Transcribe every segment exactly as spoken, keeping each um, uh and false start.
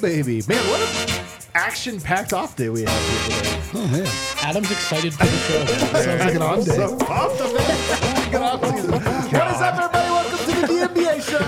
baby. Man, what an action-packed off day we have here today. Oh, man. Adam's excited for the show. Sounds like an on day. So pumped up there. Good off season. What is up, everybody? Welcome to the D N B A show.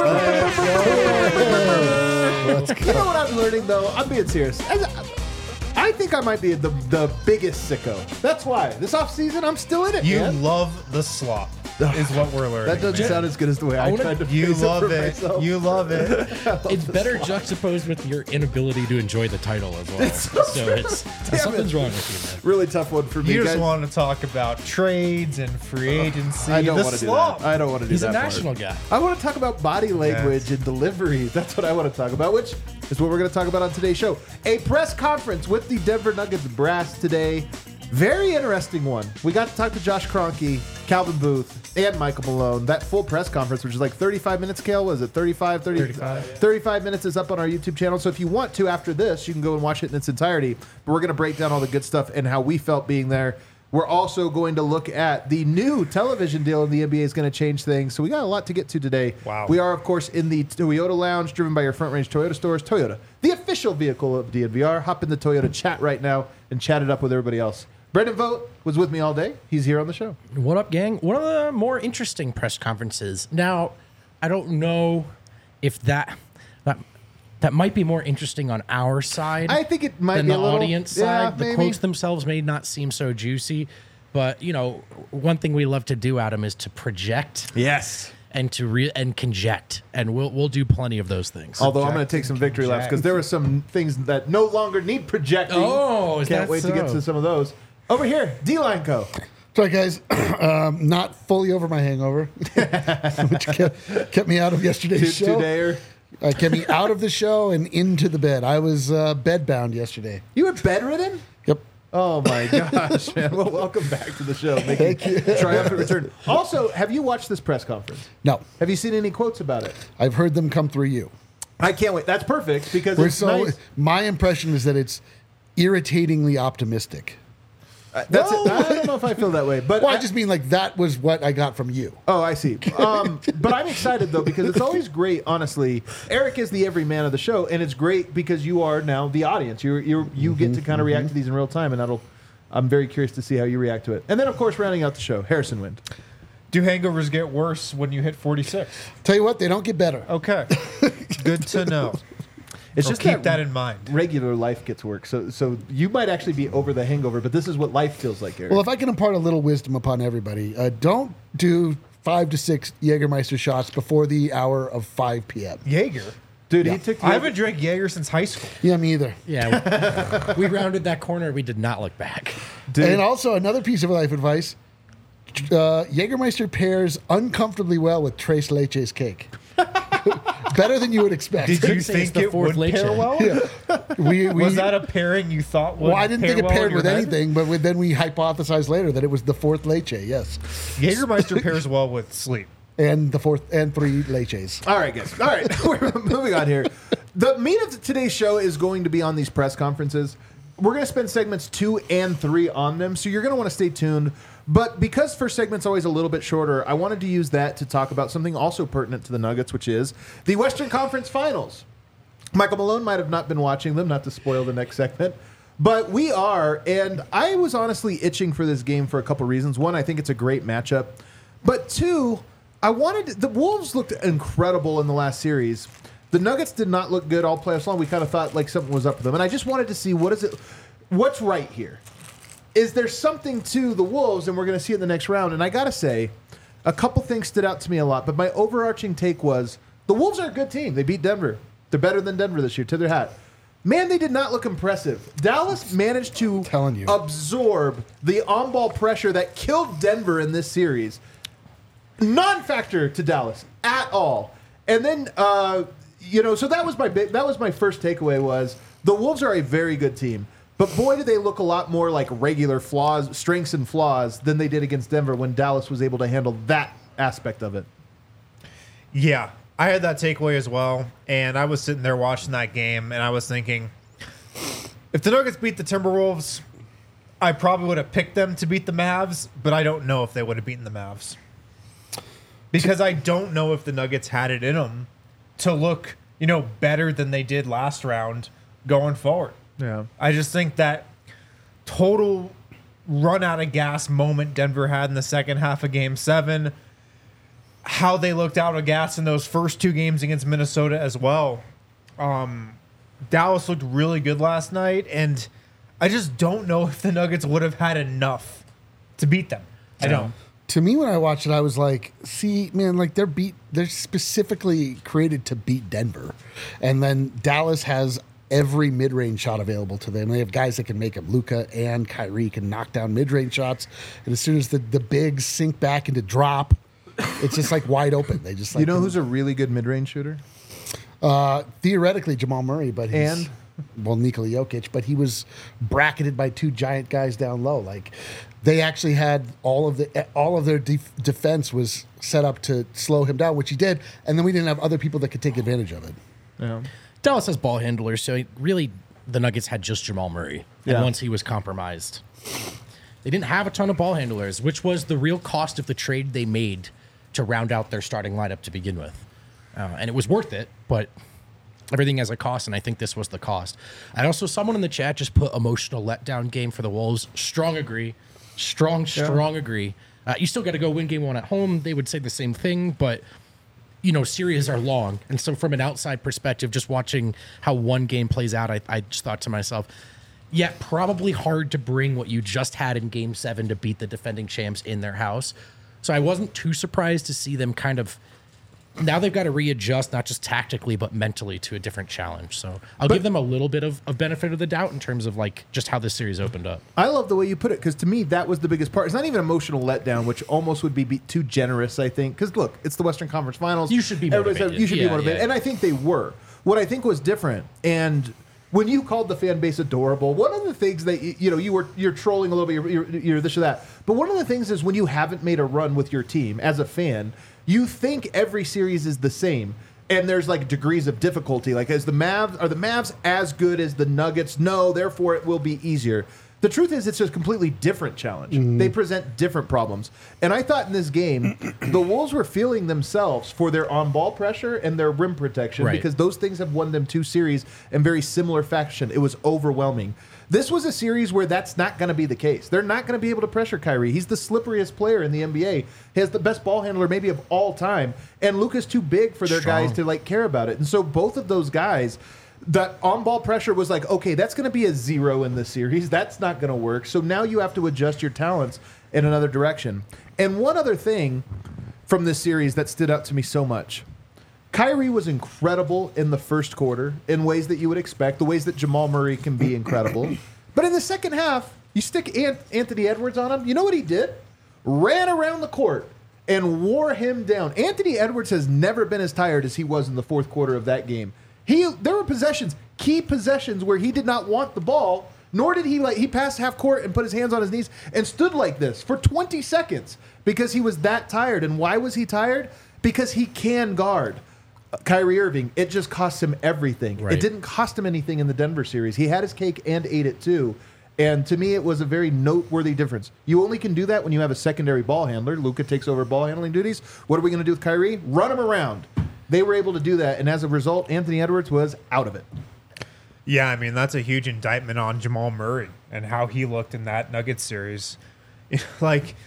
You know what I'm learning, though? I'm being serious. I, I think I might be the, the biggest sicko. That's why. This offseason, I'm still in it, You man. love the slop, is what we're learning. That doesn't man. sound as good as the way I, I wanna- tried to You phrase love it. For it. myself. You love it. It's better juxtaposed with your inability to enjoy the title as well. It's so so true. it's Damn something's it. wrong with you, man. Really tough one for me. You just guys. want to talk about trades and free agency. I don't the want to do slop. that. I don't want to do He's that a part. national guy. I want to talk about body language and delivery. That's what I want to talk about, which is what we're going to talk about on today's show. A press conference with the Denver Nuggets brass today. Very interesting one. We got to talk to Josh Kroenke, Calvin Booth, and Michael Malone. That full press conference, which is like thirty-five minutes, Kale, was it thirty-five, thirty, thirty-five. thirty-five minutes is up on our YouTube channel. So if you want to, after this, you can go and watch it in its entirety. But we're going to break down all the good stuff and how we felt being there. We're also going to look at the new television deal in the N B A is going to change things. So we got a lot to get to today. Wow. We are, of course, in the Toyota Lounge, driven by your Front Range Toyota stores. Toyota, the official vehicle of D N V R. Hop in the Toyota chat right now and chat it up with everybody else. Brendan Vogt was with me all day. He's here on the show. What up, gang? One of the more interesting press conferences. Now, I don't know if that that that might be more interesting on our side. I think it might than be the a little, audience yeah, side. The maybe. quotes themselves may not seem so juicy, but you know, one thing we love to do, Adam, is to project. Yes. And to re- and conject, and we'll we'll do plenty of those things. Although I'm going to take some victory laps because there were some things that no longer need projecting. Oh, is Can't that wait to get so? to some of those. Over here, D-Line Co. Sorry, guys. um, not fully over my hangover, which kept, kept me out of yesterday's Two, show. two-dayer. Uh, kept me out of the show and into the bed. I was uh, bedbound yesterday. You were bedridden? Yep. Oh my gosh, man! Well, welcome back to the show. Making Thank you. triumphant return. Also, have you watched this press conference? No, Have you seen any quotes about it? I've heard them come through you. I can't wait. That's perfect because We're it's so. nice. My impression is that it's irritatingly optimistic. Uh, That's it. I don't know if I feel that way, but Well, I I- just mean like that was what I got from you. Oh, I see. Um, but I'm excited, though, because it's always great, honestly. Eric is the everyman of the show, and it's great because you are now the audience. You're, you're, you get to kind of react to these in real time, and that'll. I'm very curious to see how you react to it. And then, of course, rounding out the show, Harrison Wind. Do hangovers get worse when you hit forty-six? Tell you what, they don't get better. Okay. Good to know. It's Or just keep that in mind. Regular life gets worse. So, so you might actually be over the hangover, but this is what life feels like, Eric. Well, if I can impart a little wisdom upon everybody, uh, don't do five to six Jägermeister shots before the hour of five p.m. Jaeger. Dude, yeah. he took. The I haven't drank Jaeger since high school. Yeah, me either. Yeah, we, we rounded that corner. We did not look back. Dude. And also another piece of life advice: uh, Jägermeister pairs uncomfortably well with Tres Leches cake. Better than you would expect. Did Could you say it's think the it fourth would pair leche. well? Yeah. We, we, Was that a pairing you thought would well, I didn't pair think it well in paired your with head? anything, but we, then we hypothesized later that it was the fourth leche, yes, Jägermeister pairs well with sleep. and the fourth and three leches. All right, guys. All right, we're moving on here. The meat of today's show is going to be on these press conferences. We're going to spend segments two and three on them, so you're going to want to stay tuned. But because first segment's always a little bit shorter, I wanted to use that to talk about something also pertinent to the Nuggets, which is the Western Conference Finals. Michael Malone might have not been watching them, not to spoil the next segment, but we are, and I was honestly itching for this game for a couple reasons. One, I think it's a great matchup, but two, I wanted the Wolves looked incredible in the last series. The Nuggets did not look good all playoffs long. We kind of thought like something was up with them, and I just wanted to see what is it, what's right here. Is there something to the Wolves, and we're going to see it in the next round? And I got to say, a couple things stood out to me a lot, but my overarching take was the Wolves are a good team. They beat Denver. They're better than Denver this year, to their hat. Man, they did not look impressive. Dallas managed to telling you. absorb the on-ball pressure that killed Denver in this series. Non-factor to Dallas at all. And then, uh, you know, so that was my big, that was my first takeaway was the Wolves are a very good team. But boy, do they look a lot more like regular flaws, strengths and flaws than they did against Denver when Dallas was able to handle that aspect of it. Yeah, I had that takeaway as well, and I was sitting there watching that game, and I was thinking, if the Nuggets beat the Timberwolves, I probably would have picked them to beat the Mavs, but I don't know if they would have beaten the Mavs. Because I don't know if the Nuggets had it in them to look you know, better than they did last round going forward. Yeah. I just think that total run out of gas moment Denver had in the second half of game seven, how they looked out of gas in those first two games against Minnesota as well. Um, Dallas looked really good last night, and I just don't know if the Nuggets would have had enough to beat them. I don't. To me, when I watched it, I was like, see, man, like they're beat, they're specifically created to beat Denver. And then Dallas has every mid-range shot available to them. They have guys that can make them. Luka and Kyrie can knock down mid-range shots. And as soon as the, the bigs sink back into drop, it's just like wide open. They just like You know can- who's a really good mid-range shooter? Uh, theoretically, Jamal Murray, but he's, And? well, Nikola Jokic, but he was bracketed by two giant guys down low. Like they actually had all of the all of their def- defense was set up to slow him down, which he did, and then we didn't have other people that could take advantage of it. Yeah. Dallas has ball handlers, so it really the Nuggets had just Jamal Murray. And Yeah. once he was compromised, they didn't have a ton of ball handlers, which was the real cost of the trade they made to round out their starting lineup to begin with. Uh, and it was worth it, but everything has a cost, and I think this was the cost. I also, someone in the chat just put emotional letdown game for the Wolves. Strong agree. Strong, strong agree. Uh, you still got to go win game one at home. They would say the same thing, but you know, series are long. And so from an outside perspective, just watching how one game plays out, I, I just thought to myself, yeah, probably hard to bring what you just had in game seven to beat the defending champs in their house. So I wasn't too surprised to see them kind of, now they've got to readjust, not just tactically, but mentally to a different challenge. So I'll give them a little bit of, of benefit of the doubt in terms of like just how this series opened up. I love the way you put it because to me that was the biggest part. It's not even emotional letdown, which almost would be, be too generous, I think. Because look, it's the Western Conference Finals. You should be Everybody said motivated. you should Yeah, be motivated, yeah. and I think they were. What I think was different, and when you called the fan base adorable, one of the things that you, you know you were you're trolling a little bit, you're, you're, you're this or that. But one of the things is when you haven't made a run with your team as a fan, you think every series is the same. And there's like degrees of difficulty. Like, is the Mavs are the Mavs as good as the Nuggets? No, therefore it will be easier. The truth is, it's just a completely different challenge. They present different problems. And I thought in this game, the Wolves were feeling themselves for their on-ball pressure and their rim protection Right. because those things have won them two series in very similar fashion. It was overwhelming. This was a series where that's not going to be the case. They're not going to be able to pressure Kyrie. He's the slipperiest player in the N B A. He has the best ball handler maybe of all time. And Luka's too big for their Strong. guys to like care about it. And so both of those guys, that on-ball pressure was like, okay, that's going to be a zero in this series. That's not going to work. So now you have to adjust your talents in another direction. And one other thing from this series that stood out to me so much. Kyrie was incredible in the first quarter in ways that you would expect, the ways that Jamal Murray can be incredible. But in the second half, you stick Ant- Anthony Edwards on him. You know what he did? Ran around the court and wore him down. Anthony Edwards has never been as tired as he was in the fourth quarter of that game. He there were possessions, key possessions where he did not want the ball, nor did he like he passed half court and put his hands on his knees and stood like this for twenty seconds because he was that tired. And why was he tired? Because he can guard Kyrie Irving. It just cost him everything. Right. It didn't cost him anything in the Denver series. He had his cake and ate it too. And to me, it was a very noteworthy difference. You only can do that when you have a secondary ball handler. Luka takes over ball handling duties. What are we going to do with Kyrie? Run him around. They were able to do that, and as a result, Anthony Edwards was out of it. Yeah, I mean, that's a huge indictment on Jamal Murray and how he looked in that Nuggets series. Like,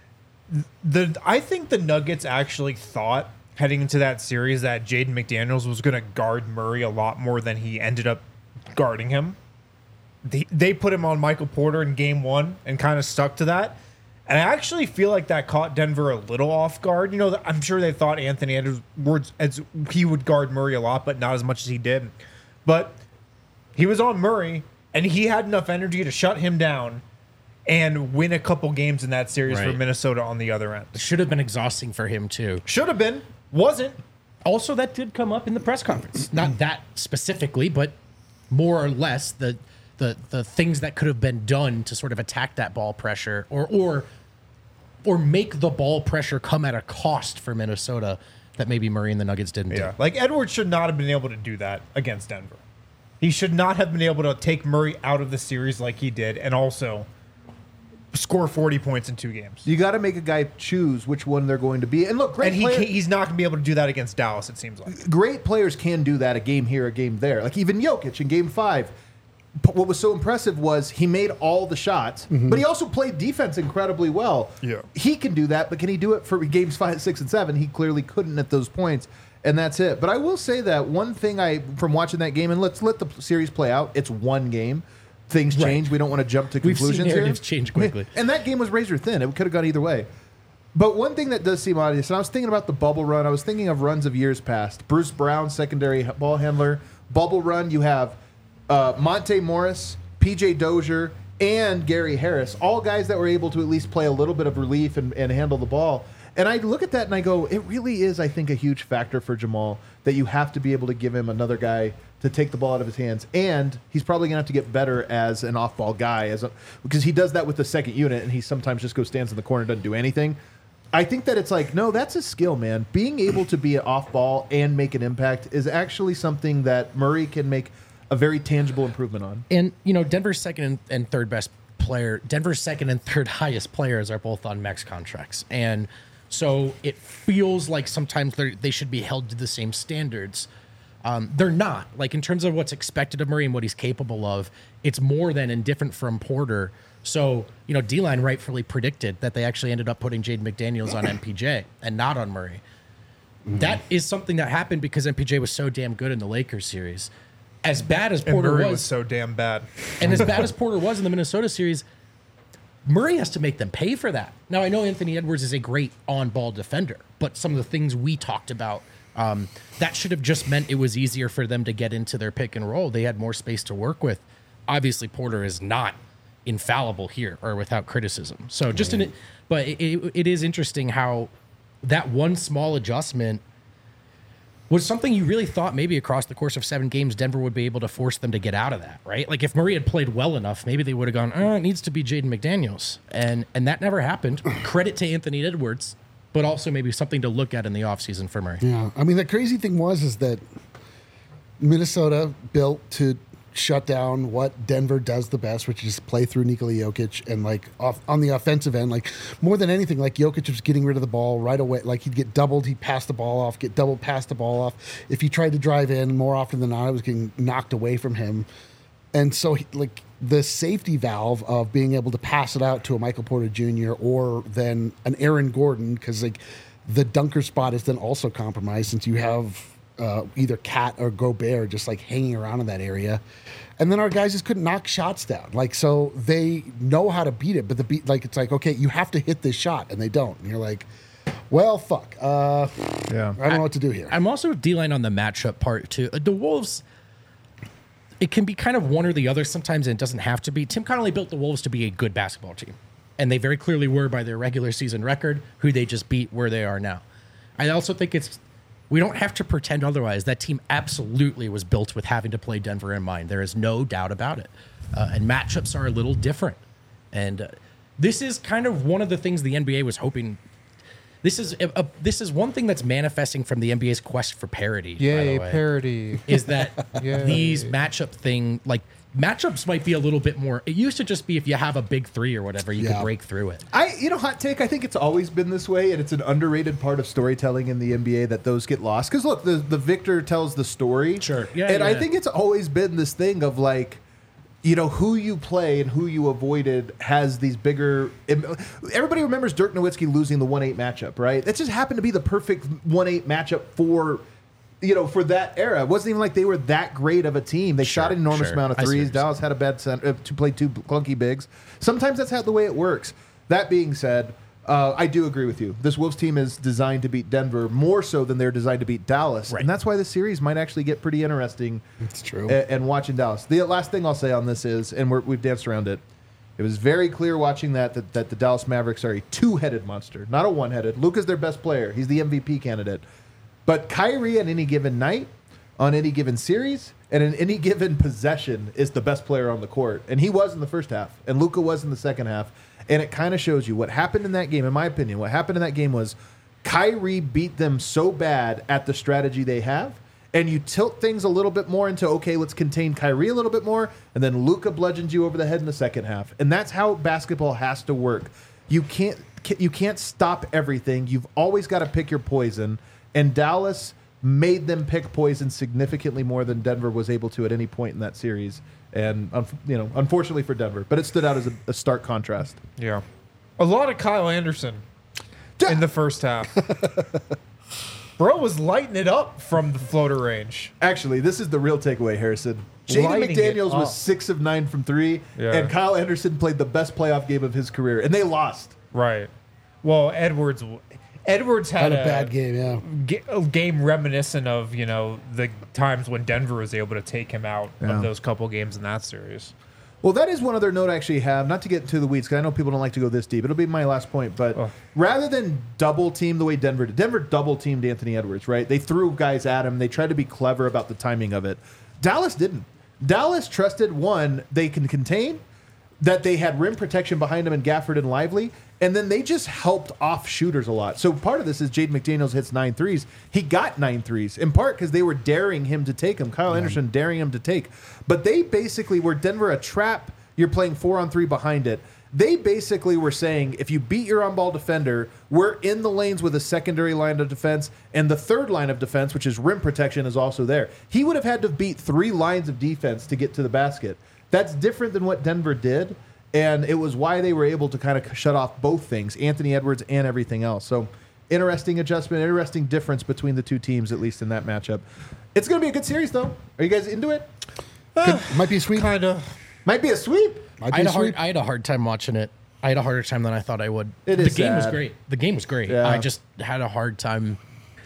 the I think the Nuggets actually thought heading into that series that Jaden McDaniels was going to guard Murray a lot more than he ended up guarding him. They, they put him on Michael Porter in game one and kind of stuck to that. And I actually feel like that caught Denver a little off guard. You know, I'm sure they thought Anthony Edwards, as he would guard Murray a lot, but not as much as he did. But he was on Murray, and he had enough energy to shut him down and win a couple games in that series for Right. Minnesota on the other end. It should have been exhausting for him too. Should have been, wasn't. Also, that did come up in the press conference. Not that specifically, but more or less the the the things that could have been done to sort of attack that ball pressure or or or make the ball pressure come at a cost for Minnesota that maybe Murray and the Nuggets didn't Yeah. do. Like, Edwards should not have been able to do that against Denver. He should not have been able to take Murray out of the series like he did and also score forty points in two games. You got to make a guy choose which one they're going to be. And look, great And he player- can't, he's not going to be able to do that against Dallas, it seems like. great players can do that a game here, a game there. Like even Jokic in game five. P- What was so impressive was he made all the shots, but he also played defense incredibly well. Yeah. He can do that, but can he do it for games five, six, and seven? He clearly couldn't at those points, and that's it. But I will say that one thing I, from watching that game, and let's let the series play out, it's one game. Things change. We don't want to jump to We've seen conclusions here. narratives change quickly. And that game was razor thin. It could have gone either way. But one thing that does seem obvious, and I was thinking about the bubble run. I was thinking of runs of years past. Bruce Brown, secondary ball handler. Bubble run, you have uh, Monte Morris, P J Dozier, and Gary Harris. All guys that were able to at least play a little bit of relief and, and handle the ball. And I look at that and I go, it really is, I think, a huge factor for Jamal that you have to be able to give him another guy to take the ball out of his hands. And he's probably going to have to get better as an off-ball guy as a, because he does that with the second unit and he sometimes just goes stands in the corner and doesn't do anything. I think that it's like, no, that's a skill, man. Being able to be an off-ball and make an impact is actually something that Murray can make a very tangible improvement on. And, you know, Denver's second and, and third best player, Denver's second and third highest players are both on max contracts. And so it feels like sometimes they should be held to the same standards. Um, they're not. Like, in terms of what's expected of Murray and what he's capable of, it's more than and different from Porter. So, you know, D-Line rightfully predicted that they actually ended up putting Jaden McDaniels on M P J and not on Murray. Mm-hmm. That is something that happened because M P J was so damn good in the Lakers series. As bad as And Porter Murray was, was so damn bad. and as bad as Porter was in the Minnesota series, Murray has to make them pay for that. Now, I know Anthony Edwards is a great on-ball defender, but some of the things we talked about, um, that should have just meant it was easier for them to get into their pick and roll. They had more space to work with. Obviously, Porter is not infallible here or without criticism. So just in it, but it, it, it is interesting how that one small adjustment was something you really thought maybe across the course of seven games, Denver would be able to force them to get out of that, right? Like if Murray had played well enough, maybe they would have gone, oh, it needs to be Jaden McDaniels. And and that never happened. Credit to Anthony Edwards, but also maybe something to look at in the offseason for Murray. Yeah, I mean the crazy thing was is that Minnesota built to shut down what Denver does the best, which is play through Nikola Jokic, and like off on the offensive end, like more than anything, like Jokic was getting rid of the ball right away. Like he'd get doubled, he'd pass the ball off, get doubled, pass the ball off. If he tried to drive in, more often than not, it was getting knocked away from him. And so, he, like the safety valve of being able to pass it out to a Michael Porter Junior or then an Aaron Gordon, because like the dunker spot is then also compromised since you have uh, either Cat or Gobert just like hanging around in that area. And then our guys just couldn't knock shots down. Like, so they know how to beat it, but the beat, like, it's like, okay, you have to hit this shot, and they don't. And you're like, well, fuck. Uh, Yeah. I don't know what to do here. I'm also D-line on the matchup part, too. The Wolves, it can be kind of one or the other sometimes, and it doesn't have to be. Tim Connolly built the Wolves to be a good basketball team, and they very clearly were by their regular season record, who they just beat where they are now. I also think it's we don't have to pretend otherwise. That team absolutely was built with having to play Denver in mind. There is no doubt about it. Uh, and matchups are a little different. And uh, this is kind of one of the things the N B A was hoping. This is a, a, this is one thing that's manifesting from the N B A's quest for parity. by Yay, the way, parody. is that Yay. these matchup thing, like matchups might be a little bit more. It used to just be if you have a big three or whatever, you Yeah. could break through it. I, you know, hot take. I think it's always been this way, and it's an underrated part of storytelling in the N B A that those get lost. Because look, the the victor tells the story. Sure. Yeah, and I yeah. think it's always been this thing of like, you know, who you play and who you avoided has these bigger. Everybody remembers Dirk Nowitzki losing the one eight matchup, right? That just happened to be the perfect one eight matchup for. You know, for that era, it wasn't even like they were that great of a team. They Sure, shot an enormous sure. amount of I see what threes. you're Dallas had a bad center, uh, to play two clunky bigs. Sometimes that's how the way it works. That being said, uh, I do agree with you. This Wolves team is designed to beat Denver more so than they're designed to beat Dallas, Right. and that's why the series might actually get pretty interesting. It's true. a- And watching Dallas. The last thing I'll say on this is, and we're, we've danced around it. It was very clear watching that, that that the Dallas Mavericks are a two-headed monster, not a one-headed. Luka's their best player. He's the M V P candidate. But Kyrie on any given night, on any given series, and in any given possession is the best player on the court. And he was in the first half, and Luka was in the second half. And it kind of shows you what happened in that game, in my opinion. What happened in that game was Kyrie beat them so bad at the strategy they have, and you tilt things a little bit more into, okay, let's contain Kyrie a little bit more, and then Luka bludgeons you over the head in the second half. And that's how basketball has to work. You can't you can't stop everything. You've always got to pick your poison. And Dallas made them pick poison significantly more than Denver was able to at any point in that series. And you know, unfortunately for Denver, but it stood out as a, a stark contrast. Yeah, a lot of Kyle Anderson in the first half. Bro was lighting it up from the floater range. Actually, this is the real takeaway, Harrison. Jaden Lighting McDaniels it up. was six of nine from three, Yeah. and Kyle Anderson played the best playoff game of his career, and they lost. Right. Well, Edwards Edwards had, Had a bad game, yeah. ga- a game reminiscent of, you know, the times when Denver was able to take him out Yeah. of those couple games in that series. Well, that is one other note I actually have, not to get into the weeds, because I know people don't like to go this deep. It'll be my last point, but Oh. rather than double team the way Denver did, Denver double teamed Anthony Edwards, right? They threw guys at him. They tried to be clever about the timing of it. Dallas didn't. Dallas trusted, one, they can contain, that they had rim protection behind them in Gafford and Lively, and then they just helped off shooters a lot. So part of this is Jaden McDaniels hits nine threes. He got nine threes, in part because they were daring him to take them. Kyle Anderson daring him to take. But they basically were Denver a trap. You're playing four on three behind it. They basically were saying, if you beat your on-ball defender, we're in the lanes with a secondary line of defense, and the third line of defense, which is rim protection, is also there. He would have had to beat three lines of defense to get to the basket. That's different than what Denver did, and it was why they were able to kind of shut off both things, Anthony Edwards and everything else. So interesting adjustment, interesting difference between the two teams, at least in that matchup. It's going to be a good series, though. Are you guys into it? Could, might be a sweep. Kind of. Might be a sweep. Might I be had, a a hard, sweep. I had a hard time watching it. I had a harder time than I thought I would. It the is game was sad. great. The game was great. Yeah. I just had a hard time.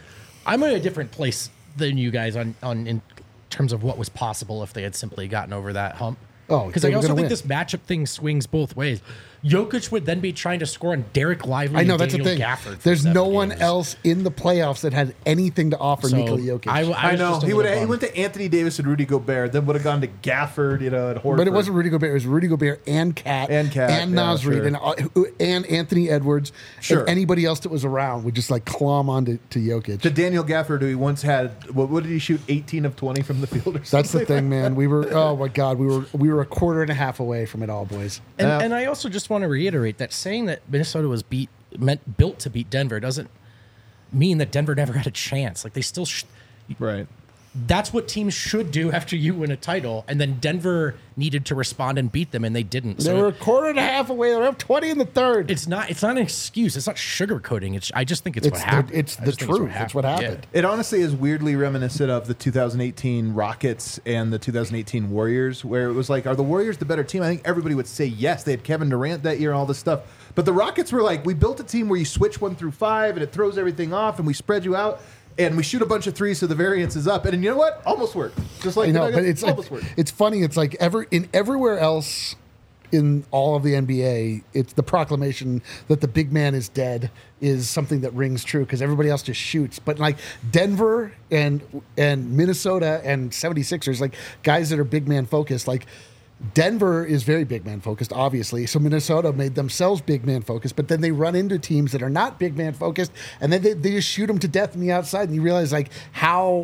I'm in a different place than you guys on, on in terms of what was possible if they had simply gotten over that hump. Oh, because they I were also gonna think win. this matchup thing swings both ways. Jokic would then be trying to score on Derek Lively. I know and that's the Daniel thing. Gafford for There's seven no one games. else in the playoffs that had anything to offer So Nikola Jokic. I, I, I was know just a he would. little He bummed. went to Anthony Davis and Rudy Gobert, then would have gone to Gafford, you know, and Horford. but it wasn't Rudy Gobert. It was Rudy Gobert and Cat And Cat, and yeah, Nasrid sure. and uh, who- and Anthony Edwards. Sure. And anybody else that was around would just like clomb onto to Jokic. to Daniel Gafford, who he once had. What, what did he shoot? eighteen of twenty from the field, or That's the something? thing, man. We were oh my god, we were we were a quarter and a half away from it all, boys. And, Yeah. and I also just want to reiterate that saying that Minnesota was beat meant built to beat Denver doesn't mean that Denver never had a chance. Like they still, sh- Right. that's what teams should do after you win a title. And then Denver needed to respond and beat them, and they didn't. They So were a quarter and a half away. They were up twenty in the third. it's not it's not an excuse. It's not sugarcoating. It's I just think it's, It's what the- happened. it's I the just think truth. It's what happened. It honestly is weirdly reminiscent of the two thousand eighteen Rockets and the two thousand eighteen Warriors, where it was like, are the Warriors the better team? I think everybody would say yes. They had Kevin Durant that year, all this stuff. But the Rockets were like, we built a team where you switch one through five and it throws everything off, and we spread you out, and we shoot a bunch of threes so the variance is up. And you know what? Almost worked. Just like I know, the but Nuggets, it's like, almost worked. it's funny. It's like ever in everywhere else in all of the N B A, it's the proclamation that the big man is dead is something that rings true because everybody else just shoots. But like Denver and and Minnesota and seventy-sixers, like guys that are big man focused, like Denver is very big man focused, obviously. So Minnesota made themselves big man focused, but then they run into teams that are not big man focused, and then they, they just shoot them to death on the outside, and you realize like how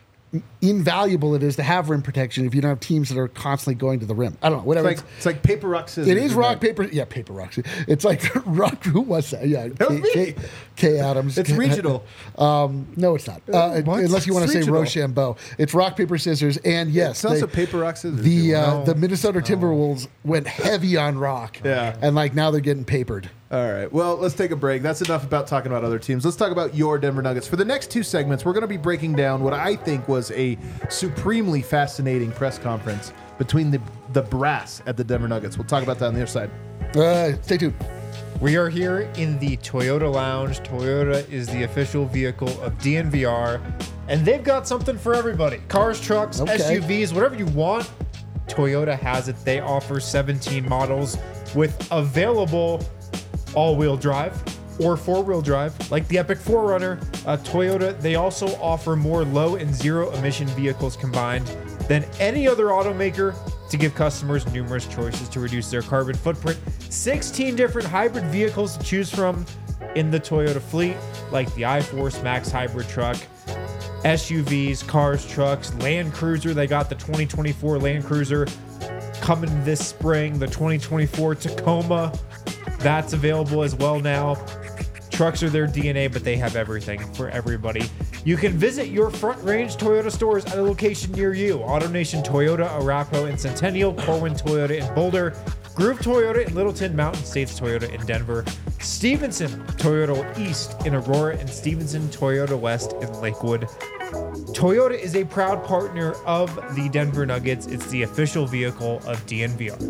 invaluable it is to have rim protection if you don't have teams that are constantly going to the rim. I don't know, It's whatever. like, it's like paper, rock, scissors. It is isn't rock it? paper. Yeah, paper rock. It's like rock. Who was that? Yeah, was K, me. K, K Adams. It's regional. Um, no, it's not. Uh, What? unless you want It's to say regional. Rochambeau. It's rock paper scissors. And yes, It's also they- paper, rock, scissors. the uh, No. the Minnesota Timberwolves went heavy on rock. Yeah. and like now they're getting papered. All right. Well, let's take a break. That's enough about talking about other teams. Let's talk about your Denver Nuggets. For the next two segments, we're going to be breaking down what I think was a supremely fascinating press conference between the the brass at the Denver Nuggets. We'll talk about that on the other side. Uh, stay tuned. We are here in the Toyota Lounge. Toyota is the official vehicle of D N V R, and they've got something for everybody. Cars, trucks, Okay. S U Vs, whatever you want, Toyota has it. They offer seventeen models with available all-wheel drive or four-wheel drive, like the Epic four runner. Uh, Toyota, they also offer more low and zero emission vehicles combined than any other automaker to give customers numerous choices to reduce their carbon footprint. sixteen different hybrid vehicles to choose from in the Toyota fleet, like the iForce Max hybrid truck. S U Vs, cars, trucks, Land Cruiser. They got the twenty twenty-four Land Cruiser coming this spring. The twenty twenty-four Tacoma, that's available as well now. Trucks are their D N A, but they have everything for everybody. You can visit your Front Range Toyota stores at a location near you. AutoNation Toyota, Arapahoe and Centennial, Corwin Toyota in Boulder, Groove Toyota in Littleton, Mountain States Toyota in Denver, Stevenson Toyota East in Aurora, and Stevenson Toyota West in Lakewood. Toyota is a proud partner of the Denver Nuggets. It's the official vehicle of D N V R.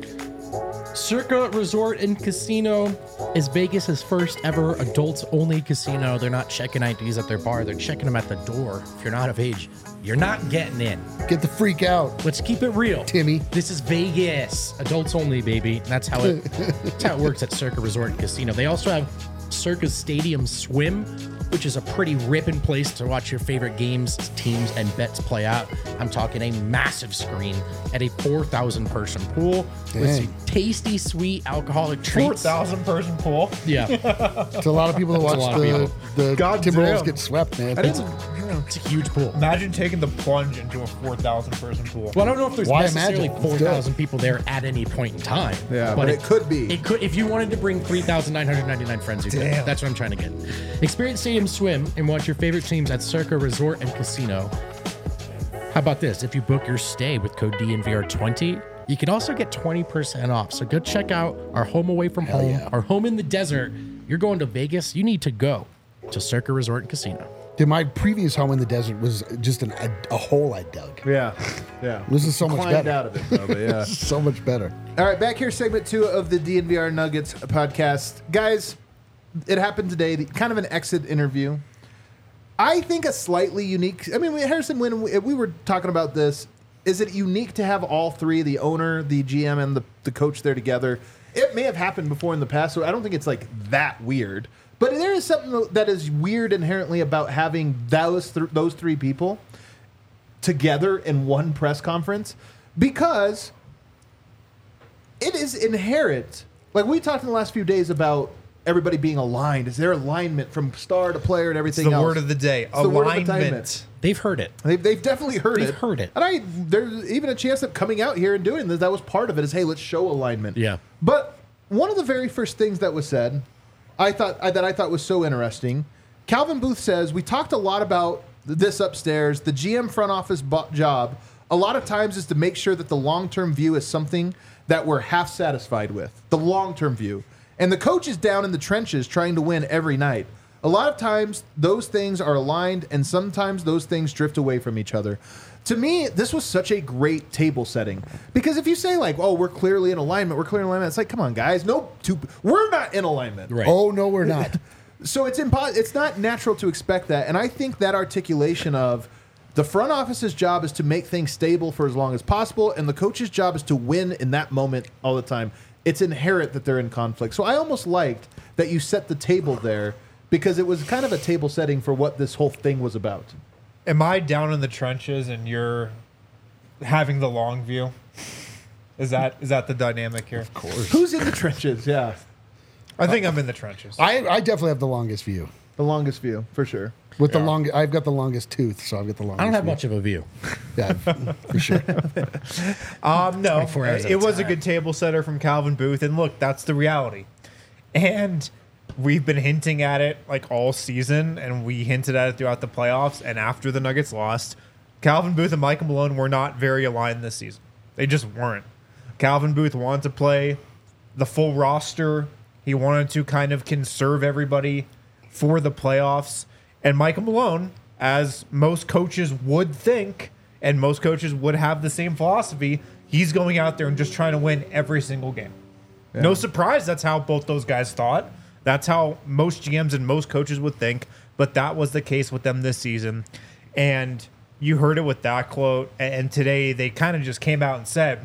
Circa Resort and Casino is Vegas' first ever adults-only casino. They're not checking I Ds at their bar. They're checking them at the door. If you're not of age, you're not getting in. Get the freak out. Let's keep it real. Timmy. This is Vegas. Adults only, baby. That's how it, that's how it works at Circa Resort and Casino. They also have Circa Stadium Swim, which is a pretty ripping place to watch your favorite games, teams, and bets play out. I'm talking a massive screen at a four thousand person pool with Dang. some tasty, sweet alcoholic four treats. thousand person pool. Yeah. It's a lot of people that watch lot of the, people. the God Timberwolves damn. get swept, man. It's a, it's a huge pool. Imagine taking the plunge into a four thousand person pool. Well, I don't know if there's Why necessarily imagine? It's four thousand people there at any point in time. Yeah, but it could be. It could, if you wanted to bring three thousand nine hundred ninety-nine friends, you could. Damn. That's what I'm trying to get. Experience Stadium Swim and watch your favorite teams at Circa Resort and Casino. How about this? If you book your stay with code D N V R twenty, you can also get twenty percent off. So go check out our home away from home, yeah. our home in the desert. You're going to Vegas, you need to go to Circa Resort and Casino. Dude, my previous home in the desert was just an, a, a hole I dug. Yeah, yeah. This is so much Climbed better. out of it, though, but yeah. So much better. All right, back here, segment two of the D N V R Nuggets podcast. Guys, it happened today, the, kind of an exit interview. I think a slightly unique, I mean, Harrison, when we, we were talking about this, is it unique to have all three, the owner, the G M, and the, the coach there together? It may have happened before in the past, so I don't think it's like that weird. But there is something that is weird inherently about having those th- those three people together in one press conference, because it is inherent. Like we talked in the last few days about everybody being aligned. Is there alignment from star to player and It's everything the else? word of the day. It's the word of the Alignment. They've heard it. They've, they've definitely heard They've it. heard it. And I there's even a chance that coming out here and doing this, that was part of it, is, hey, let's show alignment. Yeah. But one of the very first things that was said, I thought I, that I thought was so interesting, Calvin Booth says, we talked a lot about this upstairs. The G M front office bo- job, a lot of times, is to make sure that the long-term view is something that we're half satisfied with, the long-term view. And the coach is down in the trenches trying to win every night. A lot of times, those things are aligned, and sometimes those things drift away from each other. To me, this was such a great table setting. Because if you say, like, oh, we're clearly in alignment, we're clearly in alignment, it's like, come on, guys. No, two, we're not in alignment. Right. Oh, no, we're not. So it's impo- it's not natural to expect that. And I think that articulation of the front office's job is to make things stable for as long as possible, and the coach's job is to win in that moment all the time. It's inherent that they're in conflict. So I almost liked that you set the table there, because it was kind of a table setting for what this whole thing was about. Am I down in the trenches and you're having the long view? Is that is that the dynamic here? Of course. Who's in the trenches? Yeah. I think I'm in the trenches. I, I definitely have the longest view. The longest view, for sure. With the Yeah. long, I've got the longest tooth, so I've got the longest. I don't have view. much of a view. Yeah, for sure. Um, no, twenty-four hours at it a was a time. good table setter from Calvin Booth, and look, that's the reality. And we've been hinting at it like all season, and we hinted at it throughout the playoffs. And after the Nuggets lost, Calvin Booth and Michael Malone were not very aligned this season. They just weren't. Calvin Booth wanted to play the full roster. He wanted to kind of conserve everybody for the playoffs. And Michael Malone, as most coaches would think, and most coaches would have the same philosophy, he's going out there and just trying to win every single game. No surprise, that's how both those guys thought. That's how most G Ms and most coaches would think. But that was the case with them this season. And you heard it with that quote. And today they kind of just came out and said,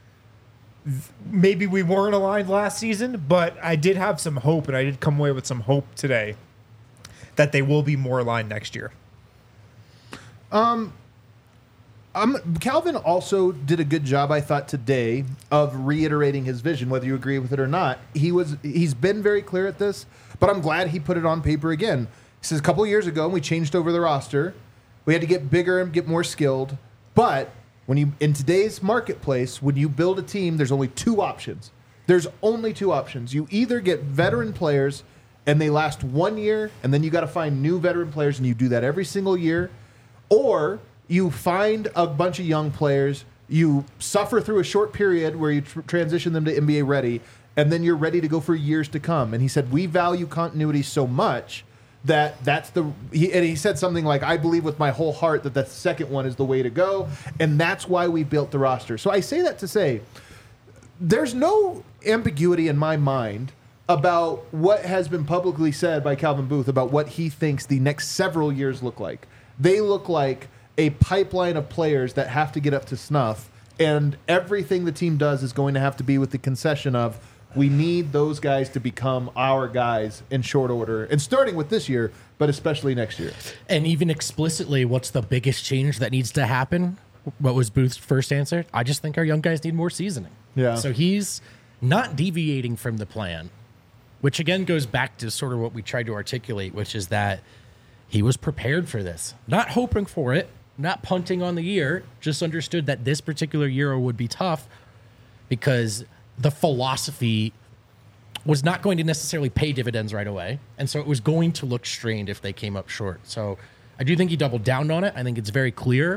maybe we weren't aligned last season, but I did have some hope, and I did come away with some hope today that they will be more aligned next year. Um, Calvin also did a good job, I thought, today of reiterating his vision, whether you agree with it or not. He was he's been very clear at this, but I'm glad he put it on paper again. He says a couple of years ago, we changed over the roster. We had to get bigger and get more skilled. But when you in today's marketplace, when you build a team, there's only two options. There's only two options. You either get veteran players and they last one year, and then you got to find new veteran players, and you do that every single year, or you find a bunch of young players, you suffer through a short period where you tr- transition them to N B A ready, and then you're ready to go for years to come. And he said, we value continuity so much that that's the he, and he said something like, I believe with my whole heart that the second one is the way to go, and that's why we built the roster. So I say that to say there's no ambiguity in my mind about what has been publicly said by Calvin Booth about what he thinks the next several years look like. They look like a pipeline of players that have to get up to snuff, and everything the team does is going to have to be with the concession of we need those guys to become our guys in short order, and starting with this year, but especially next year. And even explicitly, what's the biggest change that needs to happen? What was Booth's first answer? I just think our young guys need more seasoning. Yeah. So he's not deviating from the plan, which again goes back to sort of what we tried to articulate, which is that he was prepared for this, not hoping for it, not punting on the year, just understood that this particular year would be tough because the philosophy was not going to necessarily pay dividends right away. And so it was going to look strained if they came up short. So I do think he doubled down on it. I think it's very clear.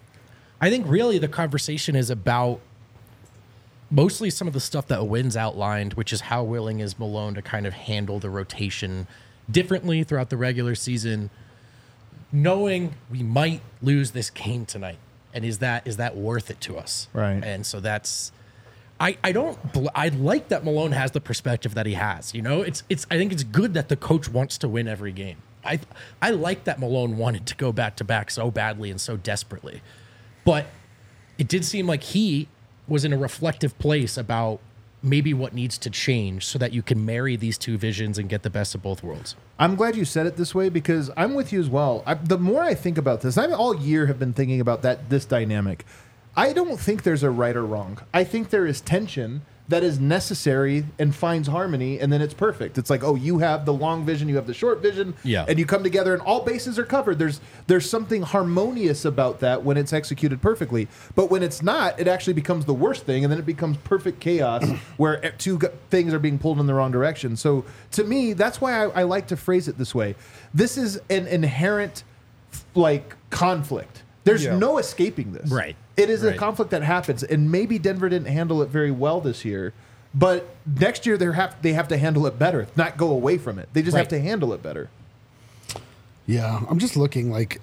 I think really the conversation is about mostly some of the stuff that Wynn's outlined, which is how willing is Malone to kind of handle the rotation differently throughout the regular season, knowing we might lose this game tonight. And is that is that worth it to us? Right. And so that's I, I don't I like that Malone has the perspective that he has. You know, it's it's I think it's good that the coach wants to win every game. I I like that Malone wanted to go back to back so badly and so desperately. But it did seem like he was in a reflective place about maybe what needs to change so that you can marry these two visions and get the best of both worlds. I'm glad you said it this way because I'm with you as well. I, the more I think about this, I all year have been thinking about that this dynamic. I don't think there's a right or wrong. I think there is tension that is necessary and finds harmony, and then it's perfect. It's like, oh, you have the long vision, you have the short vision, yeah. and you come together and all bases are covered. There's there's something harmonious about that when it's executed perfectly. But when it's not, it actually becomes the worst thing, and then it becomes perfect chaos where two things are being pulled in the wrong direction. So to me, that's why I, I like to phrase it this way. This is an inherent like conflict. There's Yeah. no escaping this. Right. It is Right. a conflict that happens, and maybe Denver didn't handle it very well this year. But next year they have they have to handle it better, not go away from it. They just Right. have to handle it better. Yeah, I'm just looking like,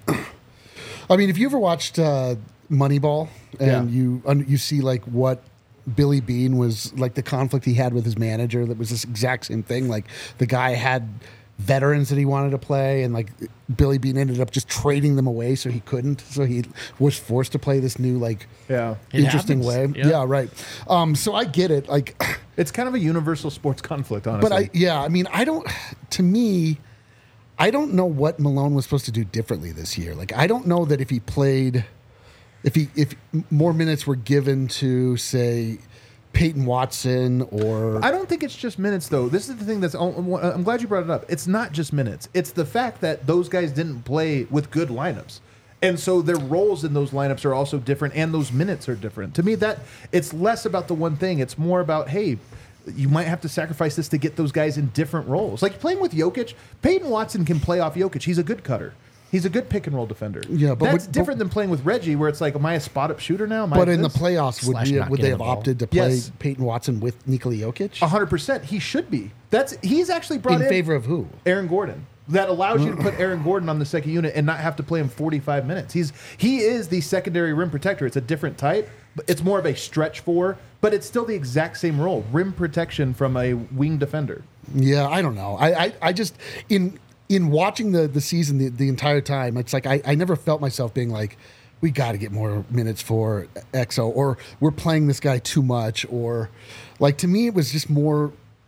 I mean, if you ever watched uh, Moneyball and Yeah. you un- you see like what Billy Beane was like, the conflict he had with his manager, that was this exact same thing. Like the guy had veterans that he wanted to play, and like Billy Beane ended up just trading them away so he couldn't. So he was forced to play this new like Yeah. It interesting happens. way. Yeah. Yeah, right. Um, so I get it. Like, It's kind of a universal sports conflict, honestly. but I yeah, I mean, I don't. To me, I don't know what Malone was supposed to do differently this year. Like, I don't know that if he played, if he if more minutes were given to say Peyton Watson or I don't think it's just minutes, though. This is the thing that's. I'm glad you brought it up. It's not just minutes. It's the fact that those guys didn't play with good lineups, and so their roles in those lineups are also different, and those minutes are different. To me, that it's less about the one thing. It's more about, hey, you might have to sacrifice this to get those guys in different roles. Like playing with Jokic, Peyton Watson can play off Jokic. He's a good cutter. He's a good pick and roll defender. Yeah, but that's would- different than playing with Reggie, where it's like, am I a spot up shooter now? Am I but in the this? playoffs, would Slash we, not would they getting have the ball. opted to play Yes. Peyton Watson with Nikola Jokic A hundred percent, he should be. That's he's actually brought in in favor of who? Aaron Gordon. That allows you to put Aaron Gordon on the second unit and not have to play him forty-five minutes. He's he is the secondary rim protector. It's a different type. But it's more of a stretch four, but it's still the exact same role: rim protection from a wing defender. Yeah, I don't know. I, I, I just in in watching the the season the, the entire time, it's like I, I never felt myself being like, we got to get more minutes for X O, or we're playing this guy too much, or like to me it was just more.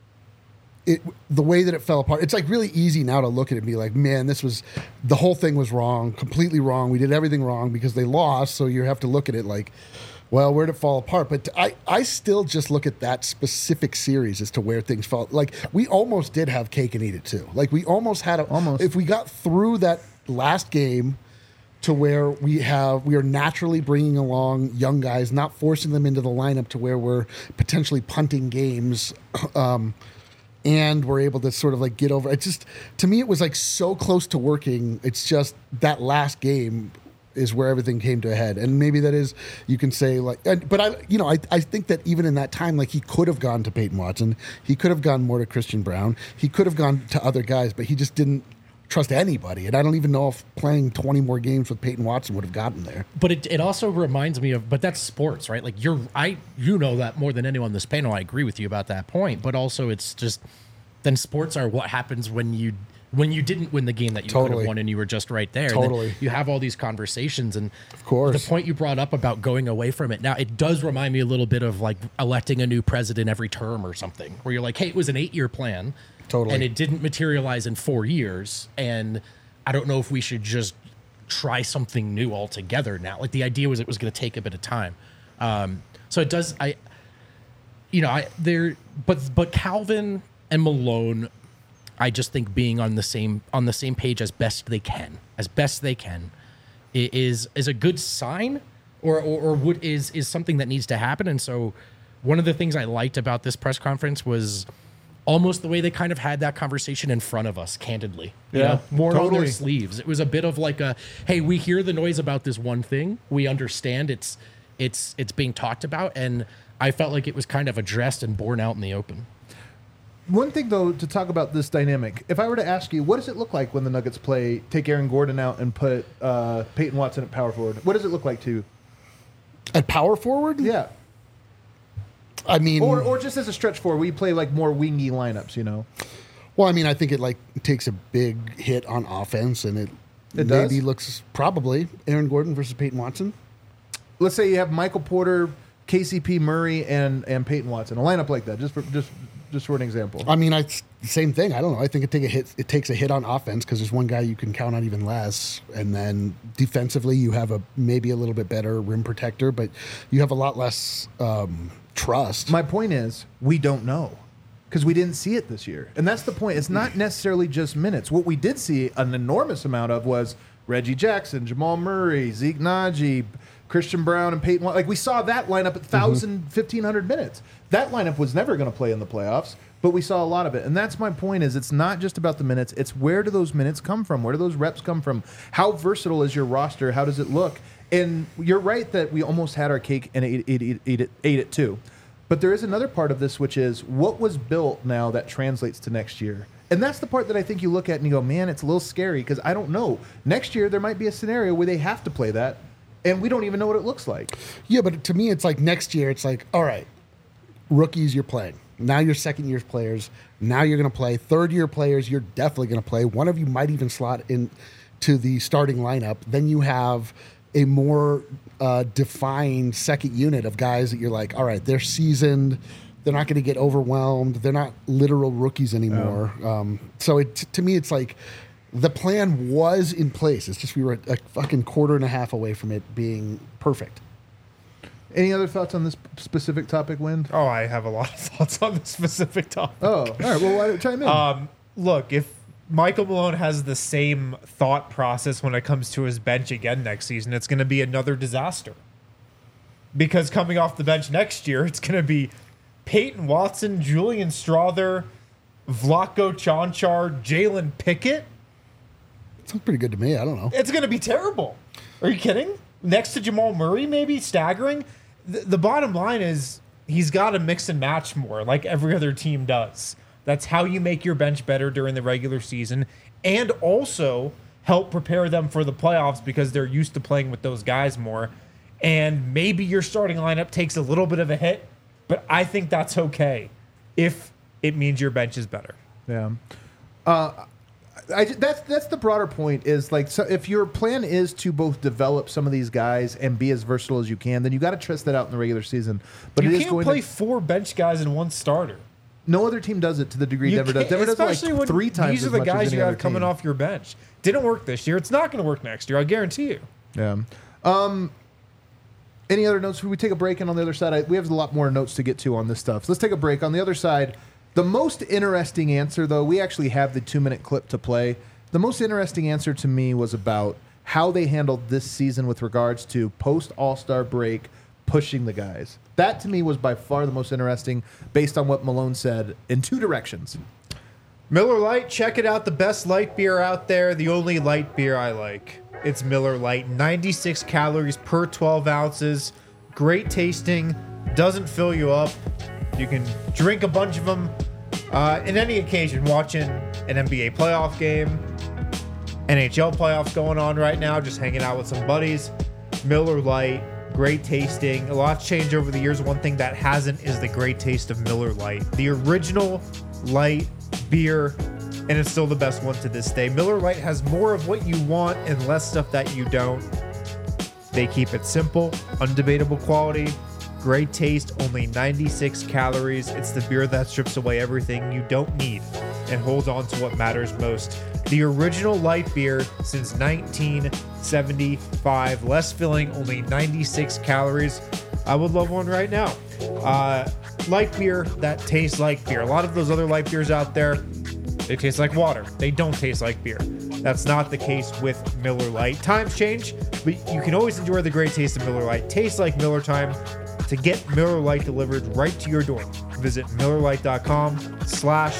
It, the way that it fell apart, it's like really easy now to look at it and be like, man, this was, the whole thing was wrong, completely wrong. We did everything wrong because they lost. So you have to look at it like, well, where'd it fall apart? But I, I still just look at that specific series as to where things fell. Like we almost did have cake and eat it too. Like we almost had a, Almost. if we got through that last game to where we have we are naturally bringing along young guys, not forcing them into the lineup to where we're potentially punting games. Um, and we're able to sort of like get over. It's just, to me, it was like so close to working. It's just that last game is where everything came to a head. And maybe that is, you can say like, and, but I, you know, I, I think that even in that time, like he could have gone to Peyton Watson. He could have gone more to Christian Brown. He could have gone to other guys, but he just didn't trust anybody. And I don't even know if playing twenty more games with Peyton Watson would have gotten there. But it, it also reminds me of, but that's sports, right? Like you're, I, you know that more than anyone on this panel. I agree with you about that point, but also it's just, then sports are what happens when you, when you didn't win the game that you could Totally. have won and you were just right there. Totally. And then you have all these conversations, and Of course. the point you brought up about going away from it. Now it does remind me a little bit of like electing a new president every term or something, where you're like, hey, it was an eight year plan. Totally. And it didn't materialize in four years. And I don't know if we should just try something new altogether now. Like the idea was it was going to take a bit of time. Um, so it does, I, you know, I there, but, but Calvin and Malone, I just think being on the same, on the same page as best they can, as best they can i- is, is a good sign or, or, or would, is, is something that needs to happen. And so one of the things I liked about this press conference was almost the way they kind of had that conversation in front of us, candidly. You Yeah, know, more on totally. their sleeves. It was a bit of like a, hey, we hear the noise about this one thing. We understand it's it's it's being talked about, and I felt like it was kind of addressed and borne out in the open. One thing, though, to talk about this dynamic, if I were to ask you, what does it look like when the Nuggets play, take Aaron Gordon out and put uh, Peyton Watson at power forward? What does it look like to you? At power forward? Yeah. I mean, Or, or just as a stretch forward, we play like more wingy lineups, you know? well, I mean, I think it like takes a big hit on offense, and it, It maybe does? looks probably Aaron Gordon versus Peyton Watson. Let's say you have Michael Porter, K C P Murray, and, and Peyton Watson. A lineup like that, just for, just just for an example. I mean, I same thing. I don't know. I think it take a hit. It takes a hit on offense because there's one guy you can count on even less, and then defensively you have a maybe a little bit better rim protector, but you have a lot less um, trust. My point is, we don't know because we didn't see it this year. And that's the point. It's not necessarily just minutes. What we did see an enormous amount of was Reggie Jackson, Jamal Murray, Zeke Naji, Christian Brown, and Peyton. Like we saw that lineup at one thousand, fifteen hundred minutes. That lineup was never going to play in the playoffs, but we saw a lot of it. And that's my point is it's not just about the minutes. It's where do those minutes come from? Where do those reps come from? How versatile is your roster? How does it look? And you're right that we almost had our cake and ate, ate, ate, ate, it, ate it too. But there is another part of this, which is what was built now that translates to next year. And that's the part that I think you look at and you go, man, it's a little scary because I don't know. Next year, there might be a scenario where they have to play that, and we don't even know what it looks like. Yeah, but to me, it's like next year. It's like, all right, rookies, you're playing. Now you're second year players. Now you're going to play. Third year players, you're definitely going to play. One of you might even slot in to the starting lineup. Then you have a more uh, defined second unit of guys that you're like, all right, they're seasoned. They're not going to get overwhelmed. They're not literal rookies anymore. Um, so it, to me, it's like the plan was in place. It's just we were a fucking quarter and a half away from it being perfect. Any other thoughts on this specific topic, Wind? Oh, I have a lot of thoughts on this specific topic. Oh, all right. Well, why don't chime in? Um, look, if Michael Malone has the same thought process when it comes to his bench again next season, it's going to be another disaster. Because coming off the bench next year, it's going to be Peyton Watson, Julian Strother, Vlatko Čančar, Jalen Pickett. Sounds pretty good to me. I don't know. It's going to be terrible. Are you kidding? Next to Jamal Murray, maybe staggering. The, the bottom line is he's got to mix and match more, like every other team does. That's how you make your bench better during the regular season, and also help prepare them for the playoffs because they're used to playing with those guys more. And maybe your starting lineup takes a little bit of a hit, but I think that's okay if it means your bench is better. Yeah. Uh, I, that's that's the broader point is like so if your plan is to both develop some of these guys and be as versatile as you can, then you got to test that out in the regular season. But you it is can't going play to, four bench guys and one starter. no other team does it to the degree You Denver does. can't- Denver does it especially like when three times These are as the much as guys any you other have coming team. off your bench. Didn't work this year. It's not going to work next year. I guarantee you. Yeah. Um, any other notes? Should we take a break? And on the other side, I, we have a lot more notes to get to on this stuff. So let's take a break. On the other side, the most interesting answer, though, we actually have the two-minute clip to play. The most interesting answer to me was about how they handled this season with regards to post All-Star break pushing the guys. That to me was by far the most interesting based on what Malone said in two directions. Miller Lite, check it out. The best light beer out there. The only light beer I like. It's Miller Lite. ninety-six calories per twelve ounces. Great tasting. Doesn't fill you up. You can drink a bunch of them uh, in any occasion. Watching an N B A playoff game. N H L playoffs going on right now. Just hanging out with some buddies. Miller Lite. Great tasting. A lot's changed over the years. One thing that hasn't is the great taste of Miller Lite. The original light beer, and it's still the best one to this day. Miller Lite has more of what you want and less stuff that you don't. They keep it simple, undebatable quality, great taste, only ninety-six calories. It's the beer that strips away everything you don't need and holds on to what matters most. The original light beer since nineteen seventy-five. Less filling, only ninety-six calories. I would love one right now. Uh, light beer that tastes like beer. A lot of those other light beers out there, they taste like water. They don't taste like beer. That's not the case with Miller Lite. Times change, but you can always enjoy the great taste of Miller Lite. Tastes like Miller time. To get Miller Lite delivered right to your door, visit MillerLite.com slash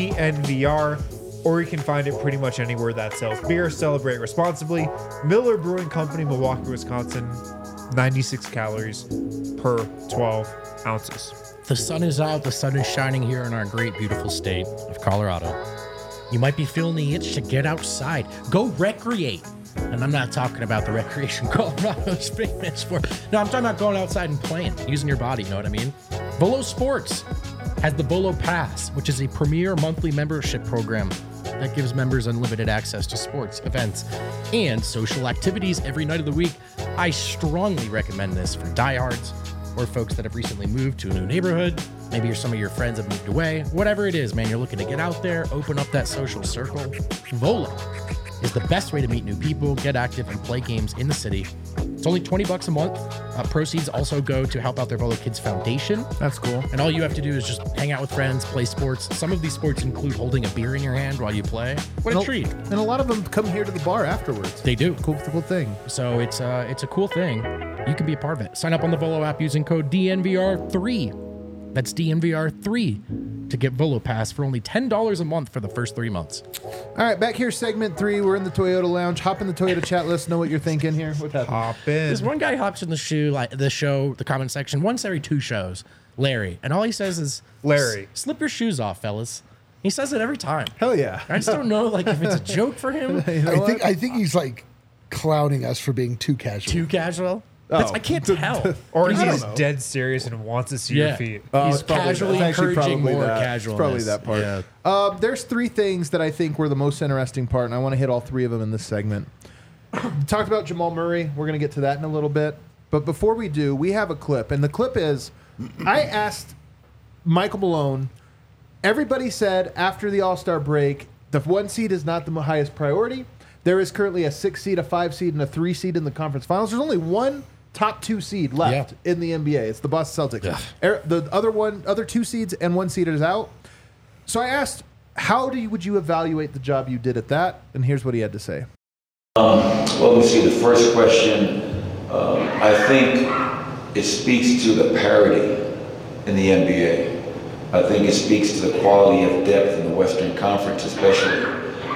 DNVR, or you can find it pretty much anywhere that sells beer. Celebrate responsibly. Miller Brewing Company, Milwaukee, Wisconsin. ninety-six calories per twelve ounces. The sun is out. The sun is shining here in our great, beautiful state of Colorado. You might be feeling the itch to get outside. Go recreate. And I'm not talking about the recreation Colorado's famous for. No, I'm talking about going outside and playing, using your body, you know what I mean? Volo Sports has the Volo Pass, which is a premier monthly membership program that gives members unlimited access to sports, events, and social activities every night of the week. I strongly recommend this for diehards or folks that have recently moved to a new neighborhood. Maybe some of your friends have moved away. Whatever it is, man, you're looking to get out there, open up that social circle. Volo is the best way to meet new people, get active, and play games in the city. It's only twenty bucks a month. Uh, proceeds also go to help out their Volo Kids Foundation. That's cool. And all you have to do is just hang out with friends, play sports. Some of these sports include holding a beer in your hand while you play. What a And treat. And a lot of them come here to the bar afterwards. They do. Cool, cool thing. So it's uh, it's a cool thing. You can be a part of it. Sign up on the Volo app using code D N V R three. That's D N V R three to get Volo Pass for only ten dollars a month for the first three months. All right, back here, segment three. We're in the Toyota Lounge. Hop in the Toyota chat. Let us know what you're thinking here. What happened? Hop in. This one guy hops in the shoe, like the show, the comment section, once every two shows, Larry. And all he says is, Larry. slip your shoes off, fellas. He says it every time. Hell yeah. I just don't know like if it's a joke for him. You know I what? think I think he's like clowning us for being too casual. Too casual. That's, Oh. I can't tell. Or I don't he's know. dead serious and wants to see Yeah. your feet. Oh, He's it's probably- casually it's actually encouraging probably more that. casualness. It's probably that part. Yeah. Um, there's three things that I think were the most interesting part, and I want to hit all three of them in this segment. Talked about Jamal Murray. We're going to get to that in a little bit. But before we do, we have a clip. And the clip is, I asked Michael Malone, everybody said after the All-Star break, the one seed is not the highest priority. There is currently a six seed, a five seed, and a three seed in the conference finals. There's only one top two seed left Yeah. in the N B A. It's the Boston Celtics. Ugh. Er- The other one, other two seeds and one seed is out. So I asked, how do you, would you evaluate the job you did at that? And here's what he had to say. Well, let me see, the first question, um, I think it speaks to the parity in the N B A. I think it speaks to the quality of depth in the Western Conference especially.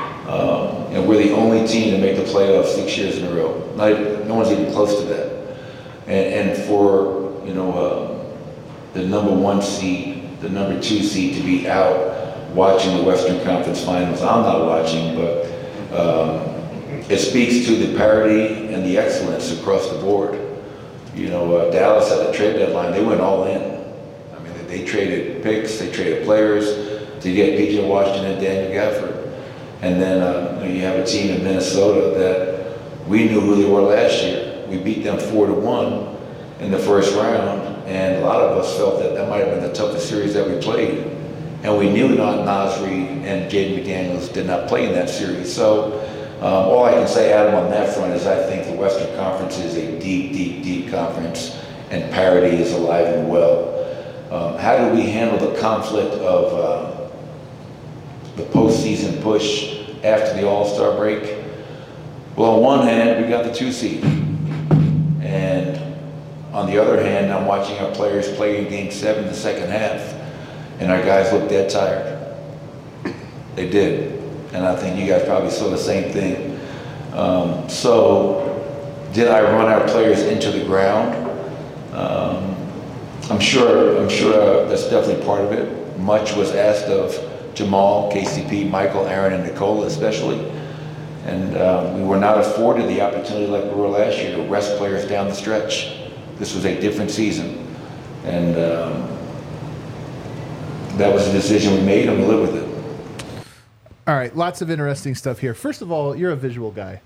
Um, and we're the only team to make the playoffs six years in a row. Not, no one's even close to that. And, and for, you know, uh, the number one seed, the number two seed to be out watching the Western Conference Finals, I'm not watching, but um, it speaks to the parity and the excellence across the board. You know, uh, Dallas at the trade deadline, they went all in. I mean, they, they traded picks, they traded players to get P J Washington and Daniel Gafford. And then uh, you have a team in Minnesota that we knew who they were last year. We beat them four to one in the first round, and a lot of us felt that that might have been the toughest series that we played. And we knew not Nasri and Jaden McDaniels did not play in that series. So um, all I can say, Adam, on that front is I think the Western Conference is a deep, deep, deep conference, and parity is alive and well. Um, how do we handle the conflict of uh, the postseason push after the All-Star break? Well, on one hand, we got the two seed. And on the other hand, I'm watching our players play in game seven, the second half, and our guys look dead tired. They did. And I think you guys probably saw the same thing. Um, so, did I run our players into the ground? Um, I'm sure, I'm sure uh, that's definitely part of it. Much was asked of Jamal, K C P, Michael, Aaron, and Nicola especially. And uh, we were not afforded the opportunity like we were last year to rest players down the stretch. This was a different season. And um, that was a decision we made, and we live with it. All right, lots of interesting stuff here. First of all, you're a visual guy.